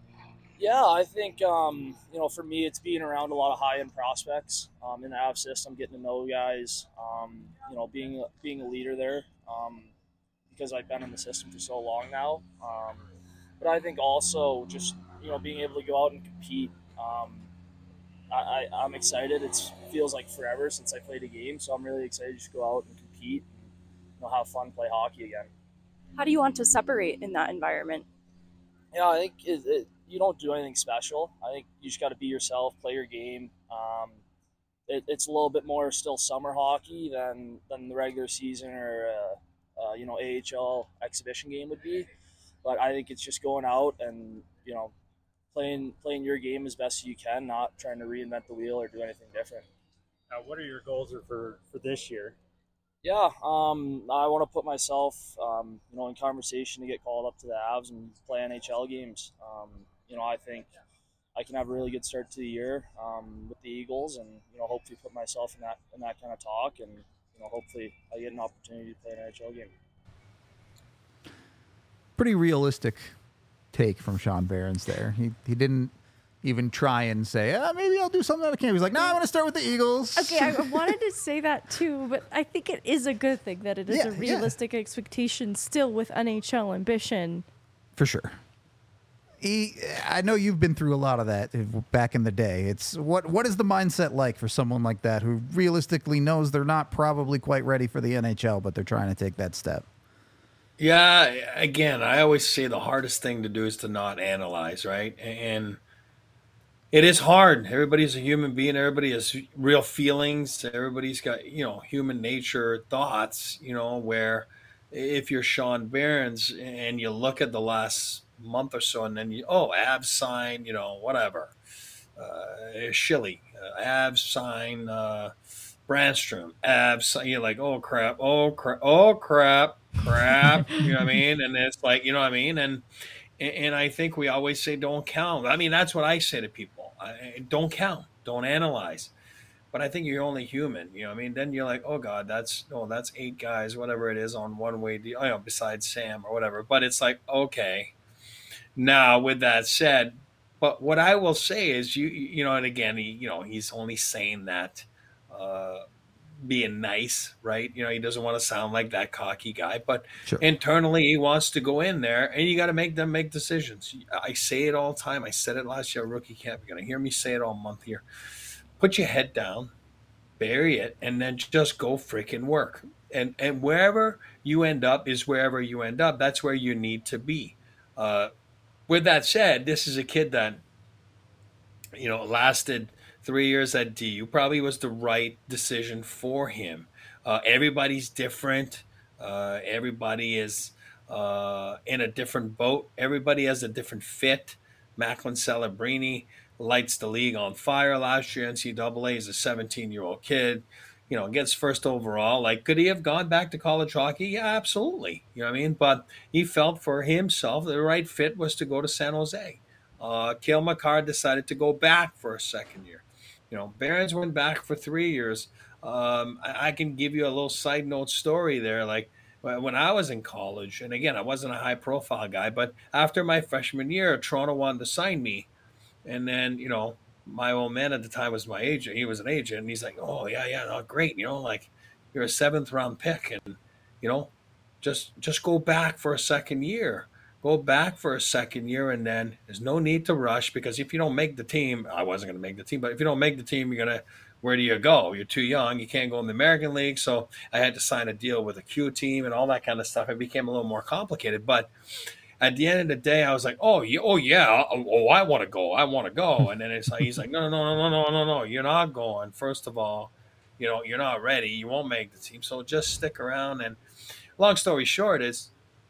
Yeah, I think, um, you know, for me, it's being around a lot of high-end prospects um, in the A V system, getting to know guys, um, you know, being, being a leader there um, because I've been in the system for so long now. Um, but I think also just, you know, being able to go out and compete. Um, I, I, I'm excited. It feels like forever since I played a game, so I'm really excited to just go out and compete and, you know, have fun, play hockey again. How do you want to separate in that environment? Yeah, I think it, it, you don't do anything special. I think you just got to be yourself, play your game. Um, it, it's a little bit more still summer hockey than, than the regular season or uh, uh, you know, A H L exhibition game would be. But I think it's just going out and, you know, playing playing your game as best you can, not trying to reinvent the wheel or do anything different. Uh, what are your goals for, for this year? Yeah, um, I want to put myself, um, you know, in conversation to get called up to the Avs and play N H L games. Um, you know, I think I can have a really good start to the year um, with the Eagles, and you know, hopefully put myself in that in that kind of talk, and you know, hopefully I get an opportunity to play an N H L game. Pretty realistic take from Sean Behrens there. He he didn't even try and say, ah, maybe I'll do something out of camp. He's like, no, nah, I want to start with the Eagles. Okay, I wanted to say that too, but I think it is a good thing that it is Yeah, a realistic yeah. expectation still with N H L ambition. For sure. He, I know you've been through a lot of that back in the day. It's what what is the mindset like for someone like that who realistically knows they're not probably quite ready for the N H L, but they're trying to take that step? Yeah, again, I always say the hardest thing to do is to not analyze, right? And it is hard. Everybody's a human being. Everybody has real feelings. Everybody's got, you know, human nature thoughts, you know, where if you're Sean Behrens and you look at the last month or so and then you, oh, Avs sign, you know, whatever. Uh, Schilly, uh, Avs sign uh, Brandstrom, Avs sign, you're like, oh, crap, oh, crap, oh, crap, crap. You know what I mean? And it's like, you know what I mean? And And I think we always say, don't count. I mean, that's what I say to people. I, don't count. Don't analyze. but I think you're only human. You know what I mean? Then you're like, oh God, that's oh that's eight guys, whatever it is on one way deal. You know, besides Sam or whatever. But it's like, okay. Now, with that said, but what I will say is, you you know, and again, he, you know, he's only saying that, uh, being nice, right? You know, he doesn't want to sound like that cocky guy, but Sure. internally he wants to go in there, and you got to make them make decisions. I say it all the time. I said it last year at rookie camp. You're going to hear me say it all month here. Put your head down, bury it, and then just go freaking work. And and wherever you end up is wherever you end up. That's where you need to be. Uh, with that said, this is a kid that, you know, lasted three years at D U. Probably was the right decision for him. Uh, everybody's different. Uh, everybody is uh, in a different boat. Everybody has a different fit. Macklin Celebrini lights the league on fire last year. N C double A is a seventeen-year-old kid. You know, gets first overall. Like, could he have gone back to college hockey? Yeah, absolutely. You know what I mean? But he felt for himself the right fit was to go to San Jose. Uh, Cale Makar decided to go back for a second year. You know, Behrens went back for three years. Um, I, I can give you a little side note story there. Like, when I was in college, and again, I wasn't a high-profile guy, but after my freshman year, Toronto wanted to sign me. And then, you know, my old man at the time was my agent. He was an agent, and he's like, oh, yeah, yeah, no, great. You know, like, you're a seventh-round pick, and, you know, just just go back for a second year. Go back for a second year, and then there's no need to rush, because if you don't make the team, I wasn't going to make the team, but if you don't make the team, you're going to, where do you go? You're too young. You can't go in the American League. So I had to sign a deal with a Q team and all that kind of stuff. It became a little more complicated. But at the end of the day, I was like, oh, yeah, oh, yeah. Oh, I want to go. I want to go. And then it's like, he's like, no, no, no, no, no, no, no. You're not going. First of all, you know, you're not ready. You won't make the team. So just stick around. And long story short is,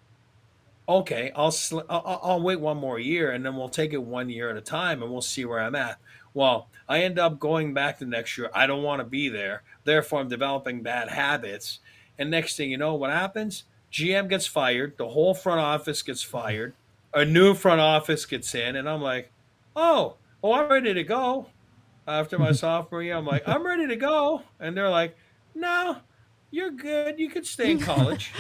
okay, I'll, sl- I'll I'll wait one more year, and then we'll take it one year at a time, and we'll see where I'm at. Well, I end up going back the next year. I don't want to be there. Therefore, I'm developing bad habits. And next thing you know, what happens? G M gets fired. The whole front office gets fired. A new front office gets in, and I'm like, oh, oh, I'm ready to go. After my sophomore year, I'm like, I'm ready to go. And they're like, no, you're good. You could stay in college.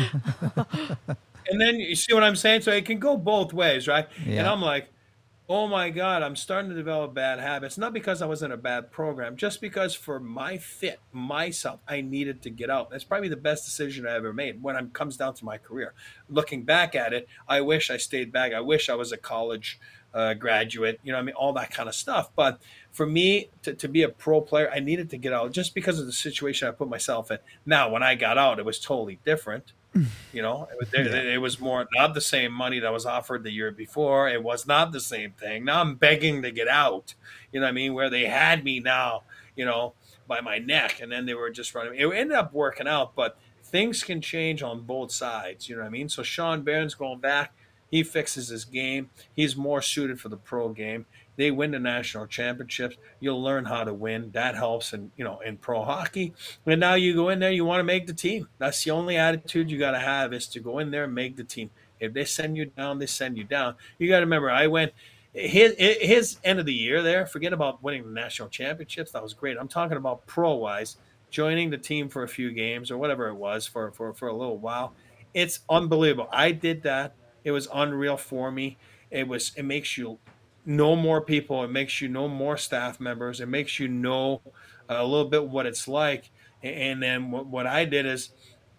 And then you see what I'm saying? So it can go both ways, right? Yeah. And I'm like, oh my God, I'm starting to develop bad habits. Not because I was in a bad program, just because for my fit, myself, I needed to get out. That's probably the best decision I ever made when it comes down to my career. Looking back at it, I wish I stayed back. I wish I was a college uh, graduate, you know what I mean? All that kind of stuff. But for me to, to be a pro player, I needed to get out just because of the situation I put myself in. Now, when I got out, it was totally different. You know, it, it, it was more not the same money that was offered the year before. It was not the same thing. Now I'm begging to get out. You know what I mean? Where they had me now, you know, by my neck, and then they were just running. It ended up working out, but things can change on both sides. You know what I mean? So Sean Behrens going back, he fixes his game. He's more suited for the pro game. They win the national championships. You'll learn how to win. That helps in, you know, in pro hockey. And now you go in there, you want to make the team. That's the only attitude you got to have, is to go in there and make the team. If they send you down, they send you down. You got to remember, I went his his end of the year there. Forget about winning the national championships. That was great. I'm talking about pro wise, joining the team for a few games or whatever it was for for for a little while. It's unbelievable. I did that. It was unreal for me. It was. It makes you know more people. It makes you know more staff members. It makes you know a little bit what it's like. And then what, what I did is,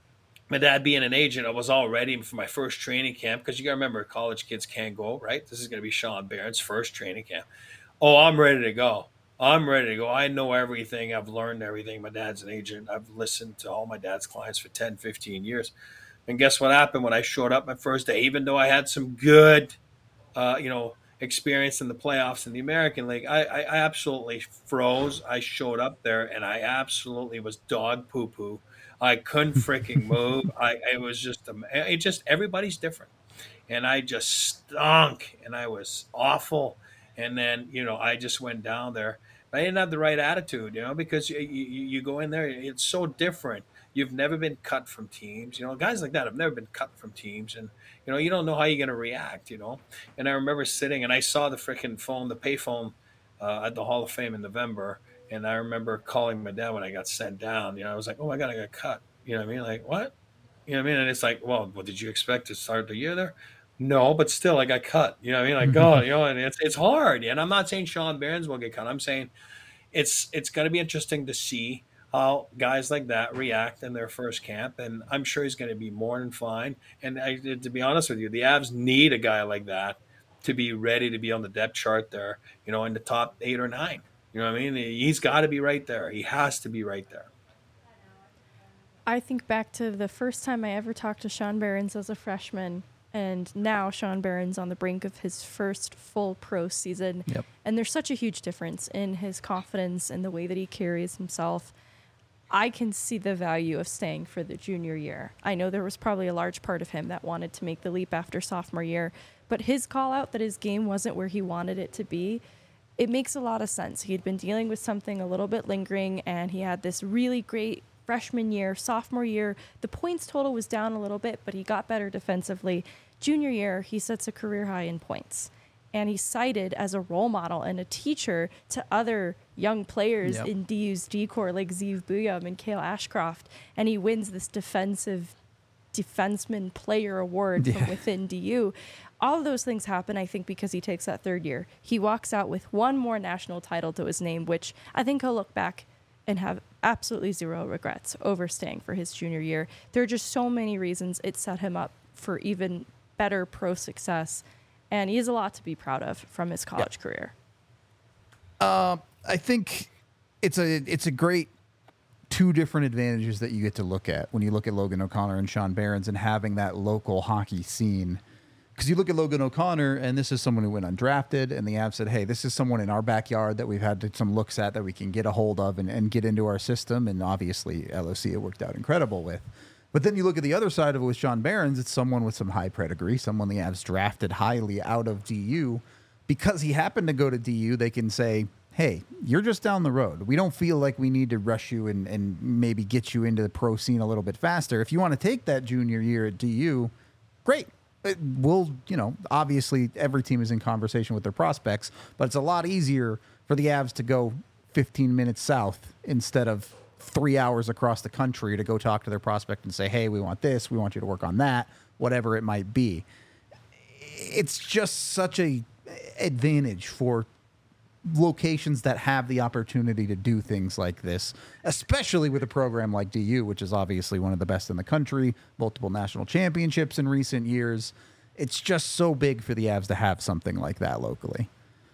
my dad being an agent, I was all ready for my first training camp, because you got to remember, college kids can't go, right? This is going to be Sean Behrens' first training camp. Oh, I'm ready to go. I'm ready to go. I know everything. I've learned everything. My dad's an agent. I've listened to all my dad's clients for ten, fifteen years. And guess what happened when I showed up my first day? Even though I had some good, uh, you know, experience in the playoffs in the American League, I, I, I absolutely froze. I showed up there, and I absolutely was dog poo poo. I couldn't freaking move. I it was just it just everybody's different, and I just stunk, and I was awful. And then, you know, I just went down there. I didn't have the right attitude, you know, because you, you, you go in there, it's so different. You've never been cut from teams, you know, guys like that have never been cut from teams, and you know, you don't know how you're going to react, you know. And I remember sitting, and I saw the freaking phone, the pay phone uh, at the Hall of Fame in November, And I remember calling my dad when I got sent down. You know, I was like, oh my God, I got cut. You know what I mean? Like, what? You know what I mean? And it's like, well, what did you expect to start the year there? No, but still, I got cut. You know what I mean? Like, oh, you know, and it's it's hard. And I'm not saying Sean Behrens will get cut. I'm saying it's it's going to be interesting to see how guys like that react in their first camp. And I'm sure he's going to be more than fine. And I, to be honest with you, the Avs need a guy like that to be ready to be on the depth chart there, you know, in the top eight or nine. You know what I mean? He's got to be right there. He has to be right there. I think back to the first time I ever talked to Sean Behrens as a freshman, and now Sean Behrens on the brink of his first full pro season. Yep. And there's such a huge difference in his confidence and the way that he carries himself. I can see the value of staying for the junior year. I know there was probably a large part of him that wanted to make the leap after sophomore year, but his call out that his game wasn't where he wanted it to be, it makes a lot of sense. He'd been dealing with something a little bit lingering, and he had this really great freshman year. Sophomore year, the points total was down a little bit, but he got better defensively. Junior year, he sets a career high in points. And he's cited as a role model and a teacher to other young players Yep. in D U's D-Corps like Zeev Buyam and Cale Ashcroft. And he wins this defensive defenseman player award Yeah. from within D U. All of those things happen, I think, because he takes that third year. He walks out with one more national title to his name, which I think he'll look back and have absolutely zero regrets over staying for his junior year. There are just so many reasons it set him up for even better pro success. And he has a lot to be proud of from his college Yeah. career. Uh, I think it's a it's a great two different advantages that you get to look at when you look at Logan O'Connor and Sean Behrens and having that local hockey scene. Because you look at Logan O'Connor, and this is someone who went undrafted, and the Avs said, hey, this is someone in our backyard that we've had some looks at that we can get a hold of and, and get into our system. And obviously, L O C it worked out incredible with. But then you look at the other side of it with Sean Behrens, it's someone with some high pedigree, someone the Avs drafted highly out of D U. Because he happened to go to D U, they can say, hey, you're just down the road. We don't feel like we need to rush you and, and maybe get you into the pro scene a little bit faster. If you want to take that junior year at D U, great. It will, you know, obviously every team is in conversation with their prospects, but it's a lot easier for the Avs to go fifteen minutes south instead of three hours across the country to go talk to their prospect and say, hey, we want this, we want you to work on that, whatever it might be. It's just such a advantage for locations that have the opportunity to do things like this, especially with a program like D U, which is obviously one of the best in the country, multiple national championships in recent years. It's just so big for the Avs to have something like that locally.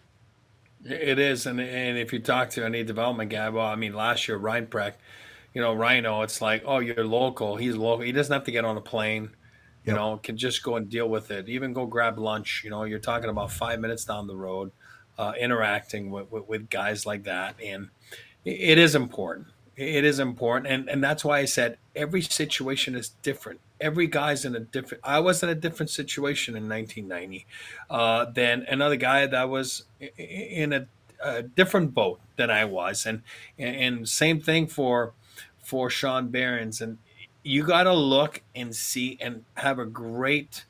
It is, and and if you talk to any development guy, well, I mean, last year Ryan Preck, you know, Rhino, it's like, oh, you're local. He's local. He doesn't have to get on a plane. You Yep. know, can just go and deal with it. Even go grab lunch. You know, you're talking about five minutes down the road, uh, interacting with, with with guys like that, and it is important. It is important, and and that's why I said every situation is different. Every guy's in a different. I was in a different situation in nineteen ninety uh, than another guy that was in a, a different boat than I was, and and same thing for for Sean Behrens. And you got to look and see and have a great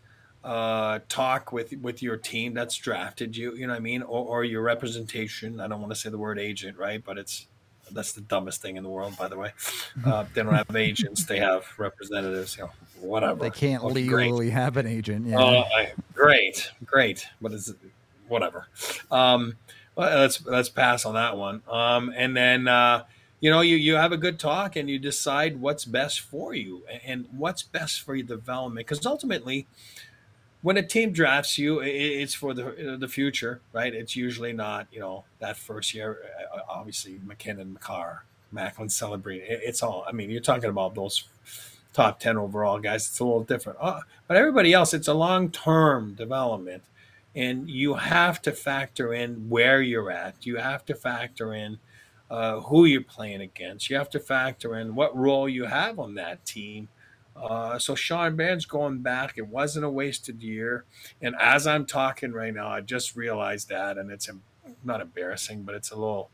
uh, talk with with your team that's drafted you. You know what I mean, or, or your representation. I don't want to say the word agent, right? But it's that's the dumbest thing in the world, by the way. Uh, they don't have agents; they have representatives. You know, whatever. They can't Okay, legally great. have an agent. Yeah. Uh, I, great, great, but it's whatever. Um, well, let's let's pass on that one. Um, and then uh, you know you you have a good talk and you decide what's best for you and, and what's best for your development. Because ultimately, when a team drafts you, it, it's for the the future, right? It's usually not, you know, that first year. Obviously, McKinnon, McCarr, Macklin, Celebrate. It, it's all. I mean, you're talking about those top ten overall guys. It's a little different. Uh, but everybody else, it's a long term development, and you have to factor in where you're at. You have to factor in uh, who you're playing against. You have to factor in what role you have on that team. Uh, so Sean Behrens going back, it wasn't a wasted year. And as I'm talking right now, I just realized that, and it's not embarrassing, but it's a little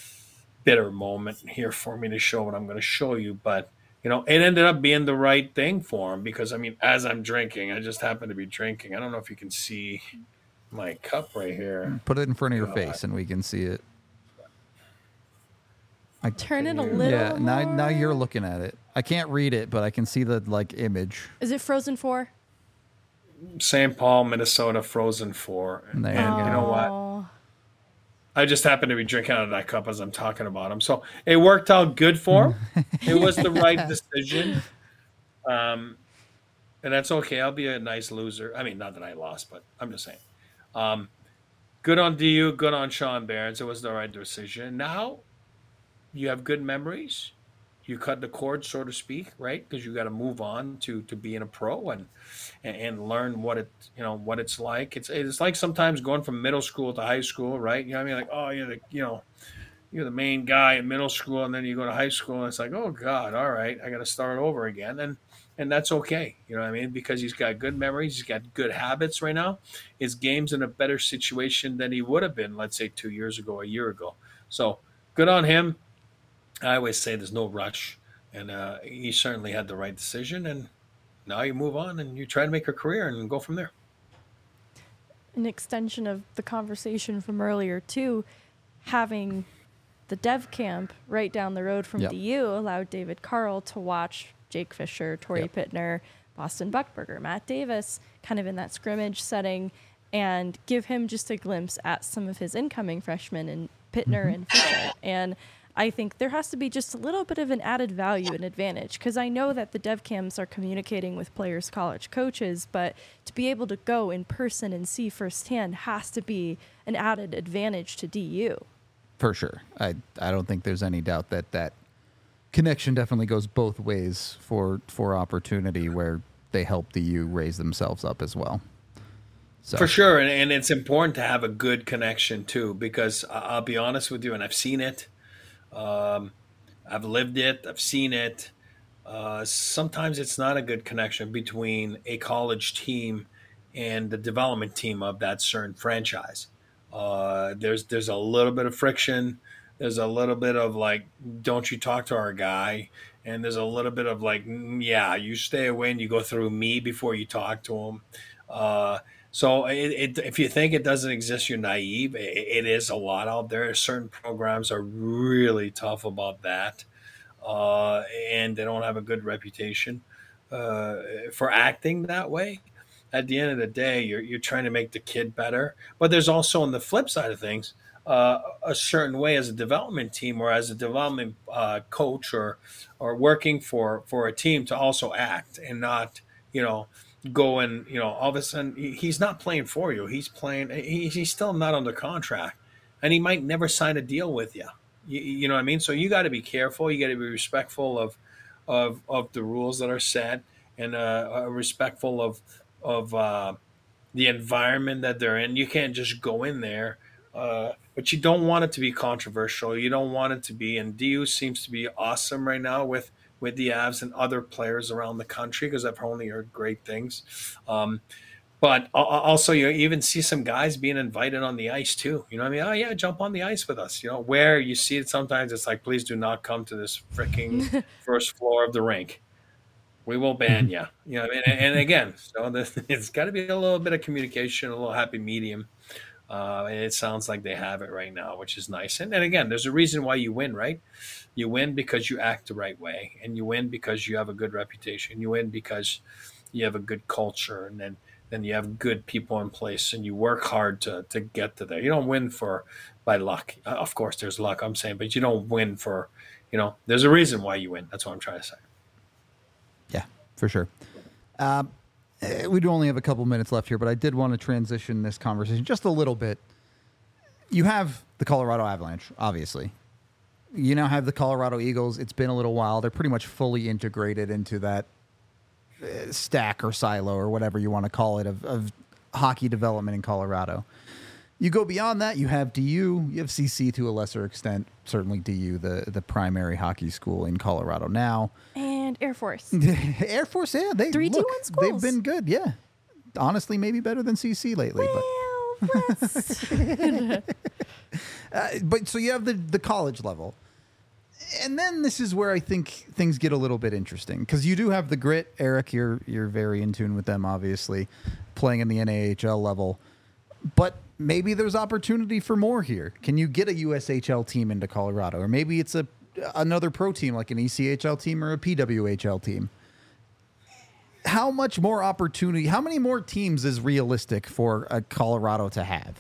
bitter moment here for me to show what I'm going to show you. But, you know, it ended up being the right thing for him because, I mean, as I'm drinking, I just happen to be drinking. I don't know if you can see my cup right here. Put it in front of your Uh, face and we can see it. I, Turn it a little yeah, now more. now you're looking at it. I can't read it, but I can see the like image. Is it Frozen four? Saint Paul, Minnesota, Frozen Four. And There you you go. know what? Oh. I just happen to be drinking out of that cup as I'm talking about him. So it worked out good for him. It was the right decision. Um, and that's okay. I'll be a nice loser. I mean, not that I lost, but I'm just saying. Um, good on D U, good on Sean Barons. It was the right decision. Now you have good memories. You cut the cord, so to speak, right? Because you got to move on to to being a pro and, and and learn what it you know what it's like. It's it's like sometimes going from middle school to high school, right? You know what I mean? Like, oh, you're the you know you're the main guy in middle school, and then you go to high school, and it's like, oh God, all right, I got to start over again, and and that's okay. You know what I mean? Because he's got good memories, he's got good habits right now. His game's in a better situation than he would have been, let's say, two years ago, a year ago. So good on him. I always say there's no rush, and uh, he certainly had the right decision. And now you move on and you try to make a career and go from there. An extension of the conversation from earlier too, having the dev camp right down the road from Yep. D U allowed David Carl to watch Jake Fisher, Torrey Yep. Pittner, Boston Buckberger, Matt Davis, kind of in that scrimmage setting, and give him just a glimpse at some of his incoming freshmen in Pittner Mm-hmm. and Fisher. And I think there has to be just a little bit of an added value and advantage, because I know that the dev camps are communicating with players' college coaches, but to be able to go in person and see firsthand has to be an added advantage to D U. For sure. I I don't think there's any doubt that that connection definitely goes both ways for for opportunity where they help the U raise themselves up as well. So. For sure. And, and it's important to have a good connection too, because I- I'll be honest with you, and I've seen it. Um, I've lived it. I've seen it. Uh, sometimes it's not a good connection between a college team and the development team of that certain franchise. Uh, there's there's a little bit of friction. There's a little bit of like, don't you talk to our guy? And there's a little bit of like, mm, yeah, you stay away and you go through me before you talk to him. Uh, so it, it, if you think it doesn't exist, you're naive. It, it is a lot out there. Certain programs are really tough about that, uh, and they don't have a good reputation uh, for acting that way. At the end of the day, you're you're trying to make the kid better. But there's also, on the flip side of things, uh, a certain way as a development team or as a development uh, coach or or working for for a team to also act and not, you know, go and, you know, all of a sudden he- he's not playing for you. He's playing. He, he's still not under contract, and he might never sign a deal with you. You, you know what I mean? So you got to be careful. You got to be respectful of of of the rules that are set, and uh, uh, respectful of of uh, the environment that they're in. You can't just go in there, uh, but you don't want it to be controversial. You don't want it to be. And D U seems to be awesome right now with with the Avs and other players around the country, because I've only heard great things. Um, but al- al- also, you even see some guys being invited on the ice too. You know what I mean? Oh yeah, jump on the ice with us. You know, where you see it sometimes, it's like, please do not come to this freaking first floor of the rink. We will ban you. You know what I mean? And, and again, so the, it's got to be a little bit of communication, a little happy medium. Uh, and it sounds like they have it right now, which is nice. And, and again, there's a reason why you win, right? You win because you act the right way, and you win because you have a good reputation. You win because you have a good culture, and then then you have good people in place, and you work hard to to get to there. You don't win for by luck. Uh, of course, there's luck, I'm saying, but you don't win for, you know, there's a reason why you win. That's what I'm trying to say. Yeah, for sure. Um, eh, we do only have a couple minutes left here, but I did want to transition this conversation just a little bit. You have the Colorado Avalanche, obviously. You now have the Colorado Eagles. It's been a little while. They're pretty much fully integrated into that uh, stack or silo or whatever you want to call it of, of hockey development in Colorado. You go beyond that, you have D U, you have C C to a lesser extent, certainly D U, the, the primary hockey school in Colorado now. And Air Force. Air Force, yeah, they Three look, D one schools. they've been good, yeah. Honestly, maybe better than C C lately, Well, let's- but uh, but so you have the the college level, and then this is where I think things get a little bit interesting, because you do have the grit. Eric, you're you're very in tune with them, obviously, playing in the N A H L level, but maybe there's opportunity for more here. Can you get a U S H L team into Colorado, or maybe it's a another pro team like an E C H L team or a P W H L team. How much more opportunity, how many more teams is realistic for uh, Colorado to have?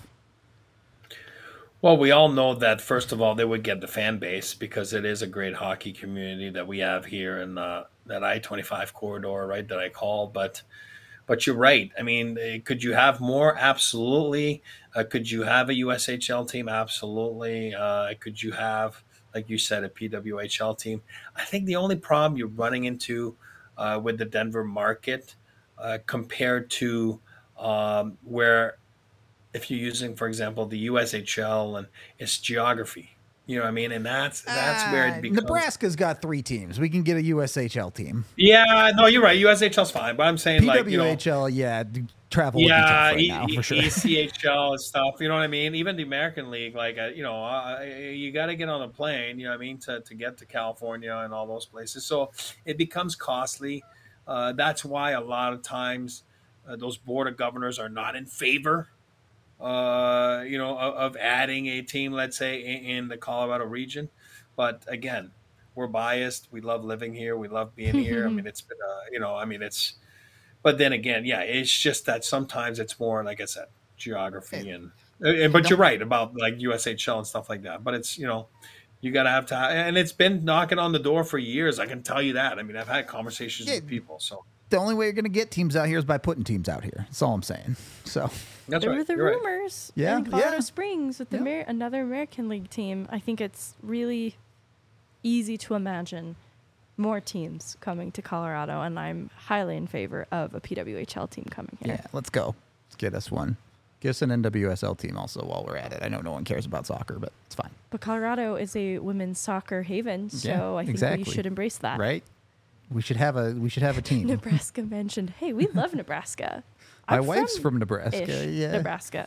Well, we all know that, first of all, they would get the fan base because it is a great hockey community that we have here in uh, that I twenty-five corridor, right, that I call. But but you're right. I mean, could you have more? Absolutely. Uh, could you have a U S H L team? Absolutely. Uh, could you have, like you said, a P W H L team? I think the only problem you're running into uh, with the Denver market uh, compared to um, where – if you're using, for example, the U S H L and its geography, you know what I mean? And that's that's uh, where it becomes. Nebraska's got three teams. We can get a U S H L team. Yeah, no, you're right. U S H L's fine, but I'm saying P W H L, like, you know, yeah, travel. Yeah, right e- now, for sure. E C H L and stuff. You know what I mean? Even the American League, like, uh, you know, uh, you got to get on a plane, you know what I mean, to, to get to California and all those places. So it becomes costly. Uh, that's why a lot of times uh, those board of governors are not in favor uh, you know, of, of adding a team, let's say, in, in the Colorado region. But again, we're biased. We love living here. We love being here. I mean, it's been, uh, you know, I mean, it's, but then again, yeah, it's just that sometimes it's more, like I said, geography and, and but you're right about like U S H L and stuff like that. But it's, you know, you got to have time. And it's been knocking on the door for years. I can tell you that. I mean, I've had conversations yeah. with people. So the only way you're going to get teams out here is by putting teams out here. That's all I'm saying. So That's there right. were the You're rumors right. Yeah, in Colorado yeah. Springs with the Yeah. Amer- another American League team. I think it's really easy to imagine more teams coming to Colorado, and I'm highly in favor of a P W H L team coming here. Yeah, let's go. Let's get us one. Get us an N W S L team also while we're at it. I know no one cares about soccer, but it's fine. But Colorado is a women's soccer haven, so Yeah, I think exactly. we should embrace that. Right? We should have a we should have a team. Nebraska mentioned, hey, we love Nebraska. My I'm wife's from, from Nebraska. ish, Yeah. Nebraska.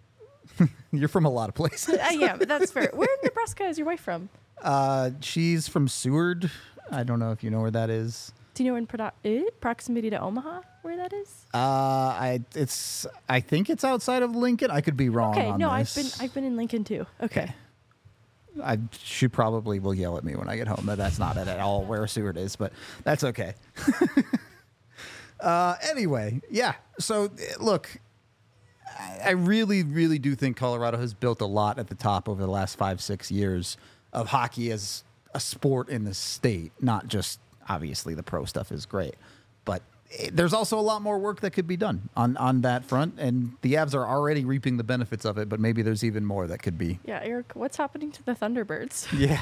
You're from a lot of places. I am. That's fair. Where in Nebraska is your wife from? Uh, she's from Seward. I don't know if you know where that is. Do you know in prodo- eh, proximity to Omaha where that is? Uh, I it's I think it's outside of Lincoln. I could be wrong. Okay, on no, this. I've been I've been in Lincoln too. Okay. I she probably will yell at me when I get home that that's not at all where Seward is, but that's okay. uh, anyway, yeah. So look, I, I really, really do think Colorado has built a lot at the top over the last five, six years of hockey as a sport in the state. Not just obviously the pro stuff is great, but there's also a lot more work that could be done on, on that front, and the Avs are already reaping the benefits of it, but maybe there's even more that could be. Yeah, Eric, what's happening to the Thunderbirds? Yeah.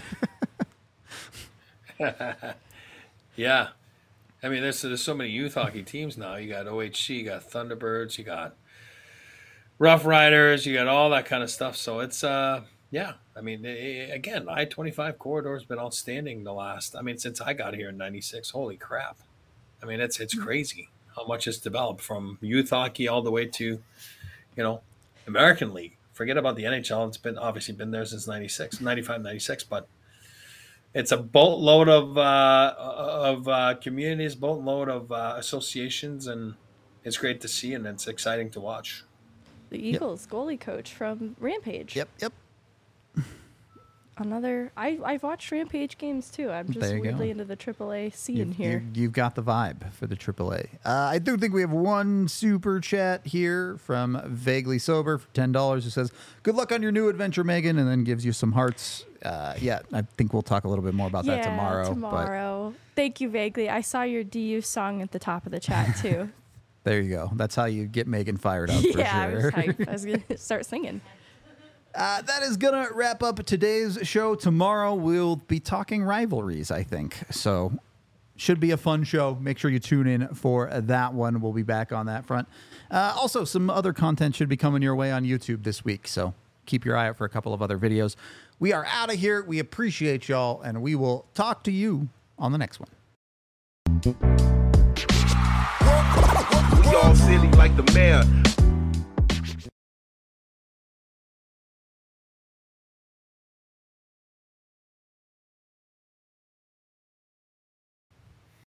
Yeah. I mean, there's, there's so many youth hockey teams now. You got O H C, you got Thunderbirds, you got Rough Riders, you got all that kind of stuff. So it's, uh, yeah. I mean, it, again, I twenty-five corridor has been outstanding the last, I mean, since I got here in ninety-six. Holy crap. I mean, it's it's crazy how much it's developed from youth hockey all the way to, you know, American League. Forget about the N H L. It's been obviously been there since ninety-six, ninety-five, ninety-six, but it's a boatload of uh, of uh, communities, boatload of uh, associations, and it's great to see, and it's exciting to watch. The Eagles yep. goalie coach from Rampage. Yep, yep. Another, I, I've watched Rampage games too. I'm just weirdly go. into the triple A scene you've, here. You've got the vibe for the triple A. Uh, I do think we have one super chat here from Vaguely Sober for ten dollars who says, good luck on your new adventure, Megan, and then gives you some hearts. Uh, yeah, I think we'll talk a little bit more about yeah, that tomorrow. tomorrow. Thank you, Vaguely. I saw your D U song at the top of the chat too. There you go. That's how you get Megan fired up yeah, for sure. I was hyped. I was going to start singing. Uh, that is going to wrap up today's show. Tomorrow we'll be talking rivalries, I think. So should be a fun show. Make sure you tune in for that one. We'll be back on that front. Uh, also, some other content should be coming your way on YouTube this week. So keep your eye out for a couple of other videos. We are out of here. We appreciate y'all, and we will talk to you on the next one. We all silly like the mayor.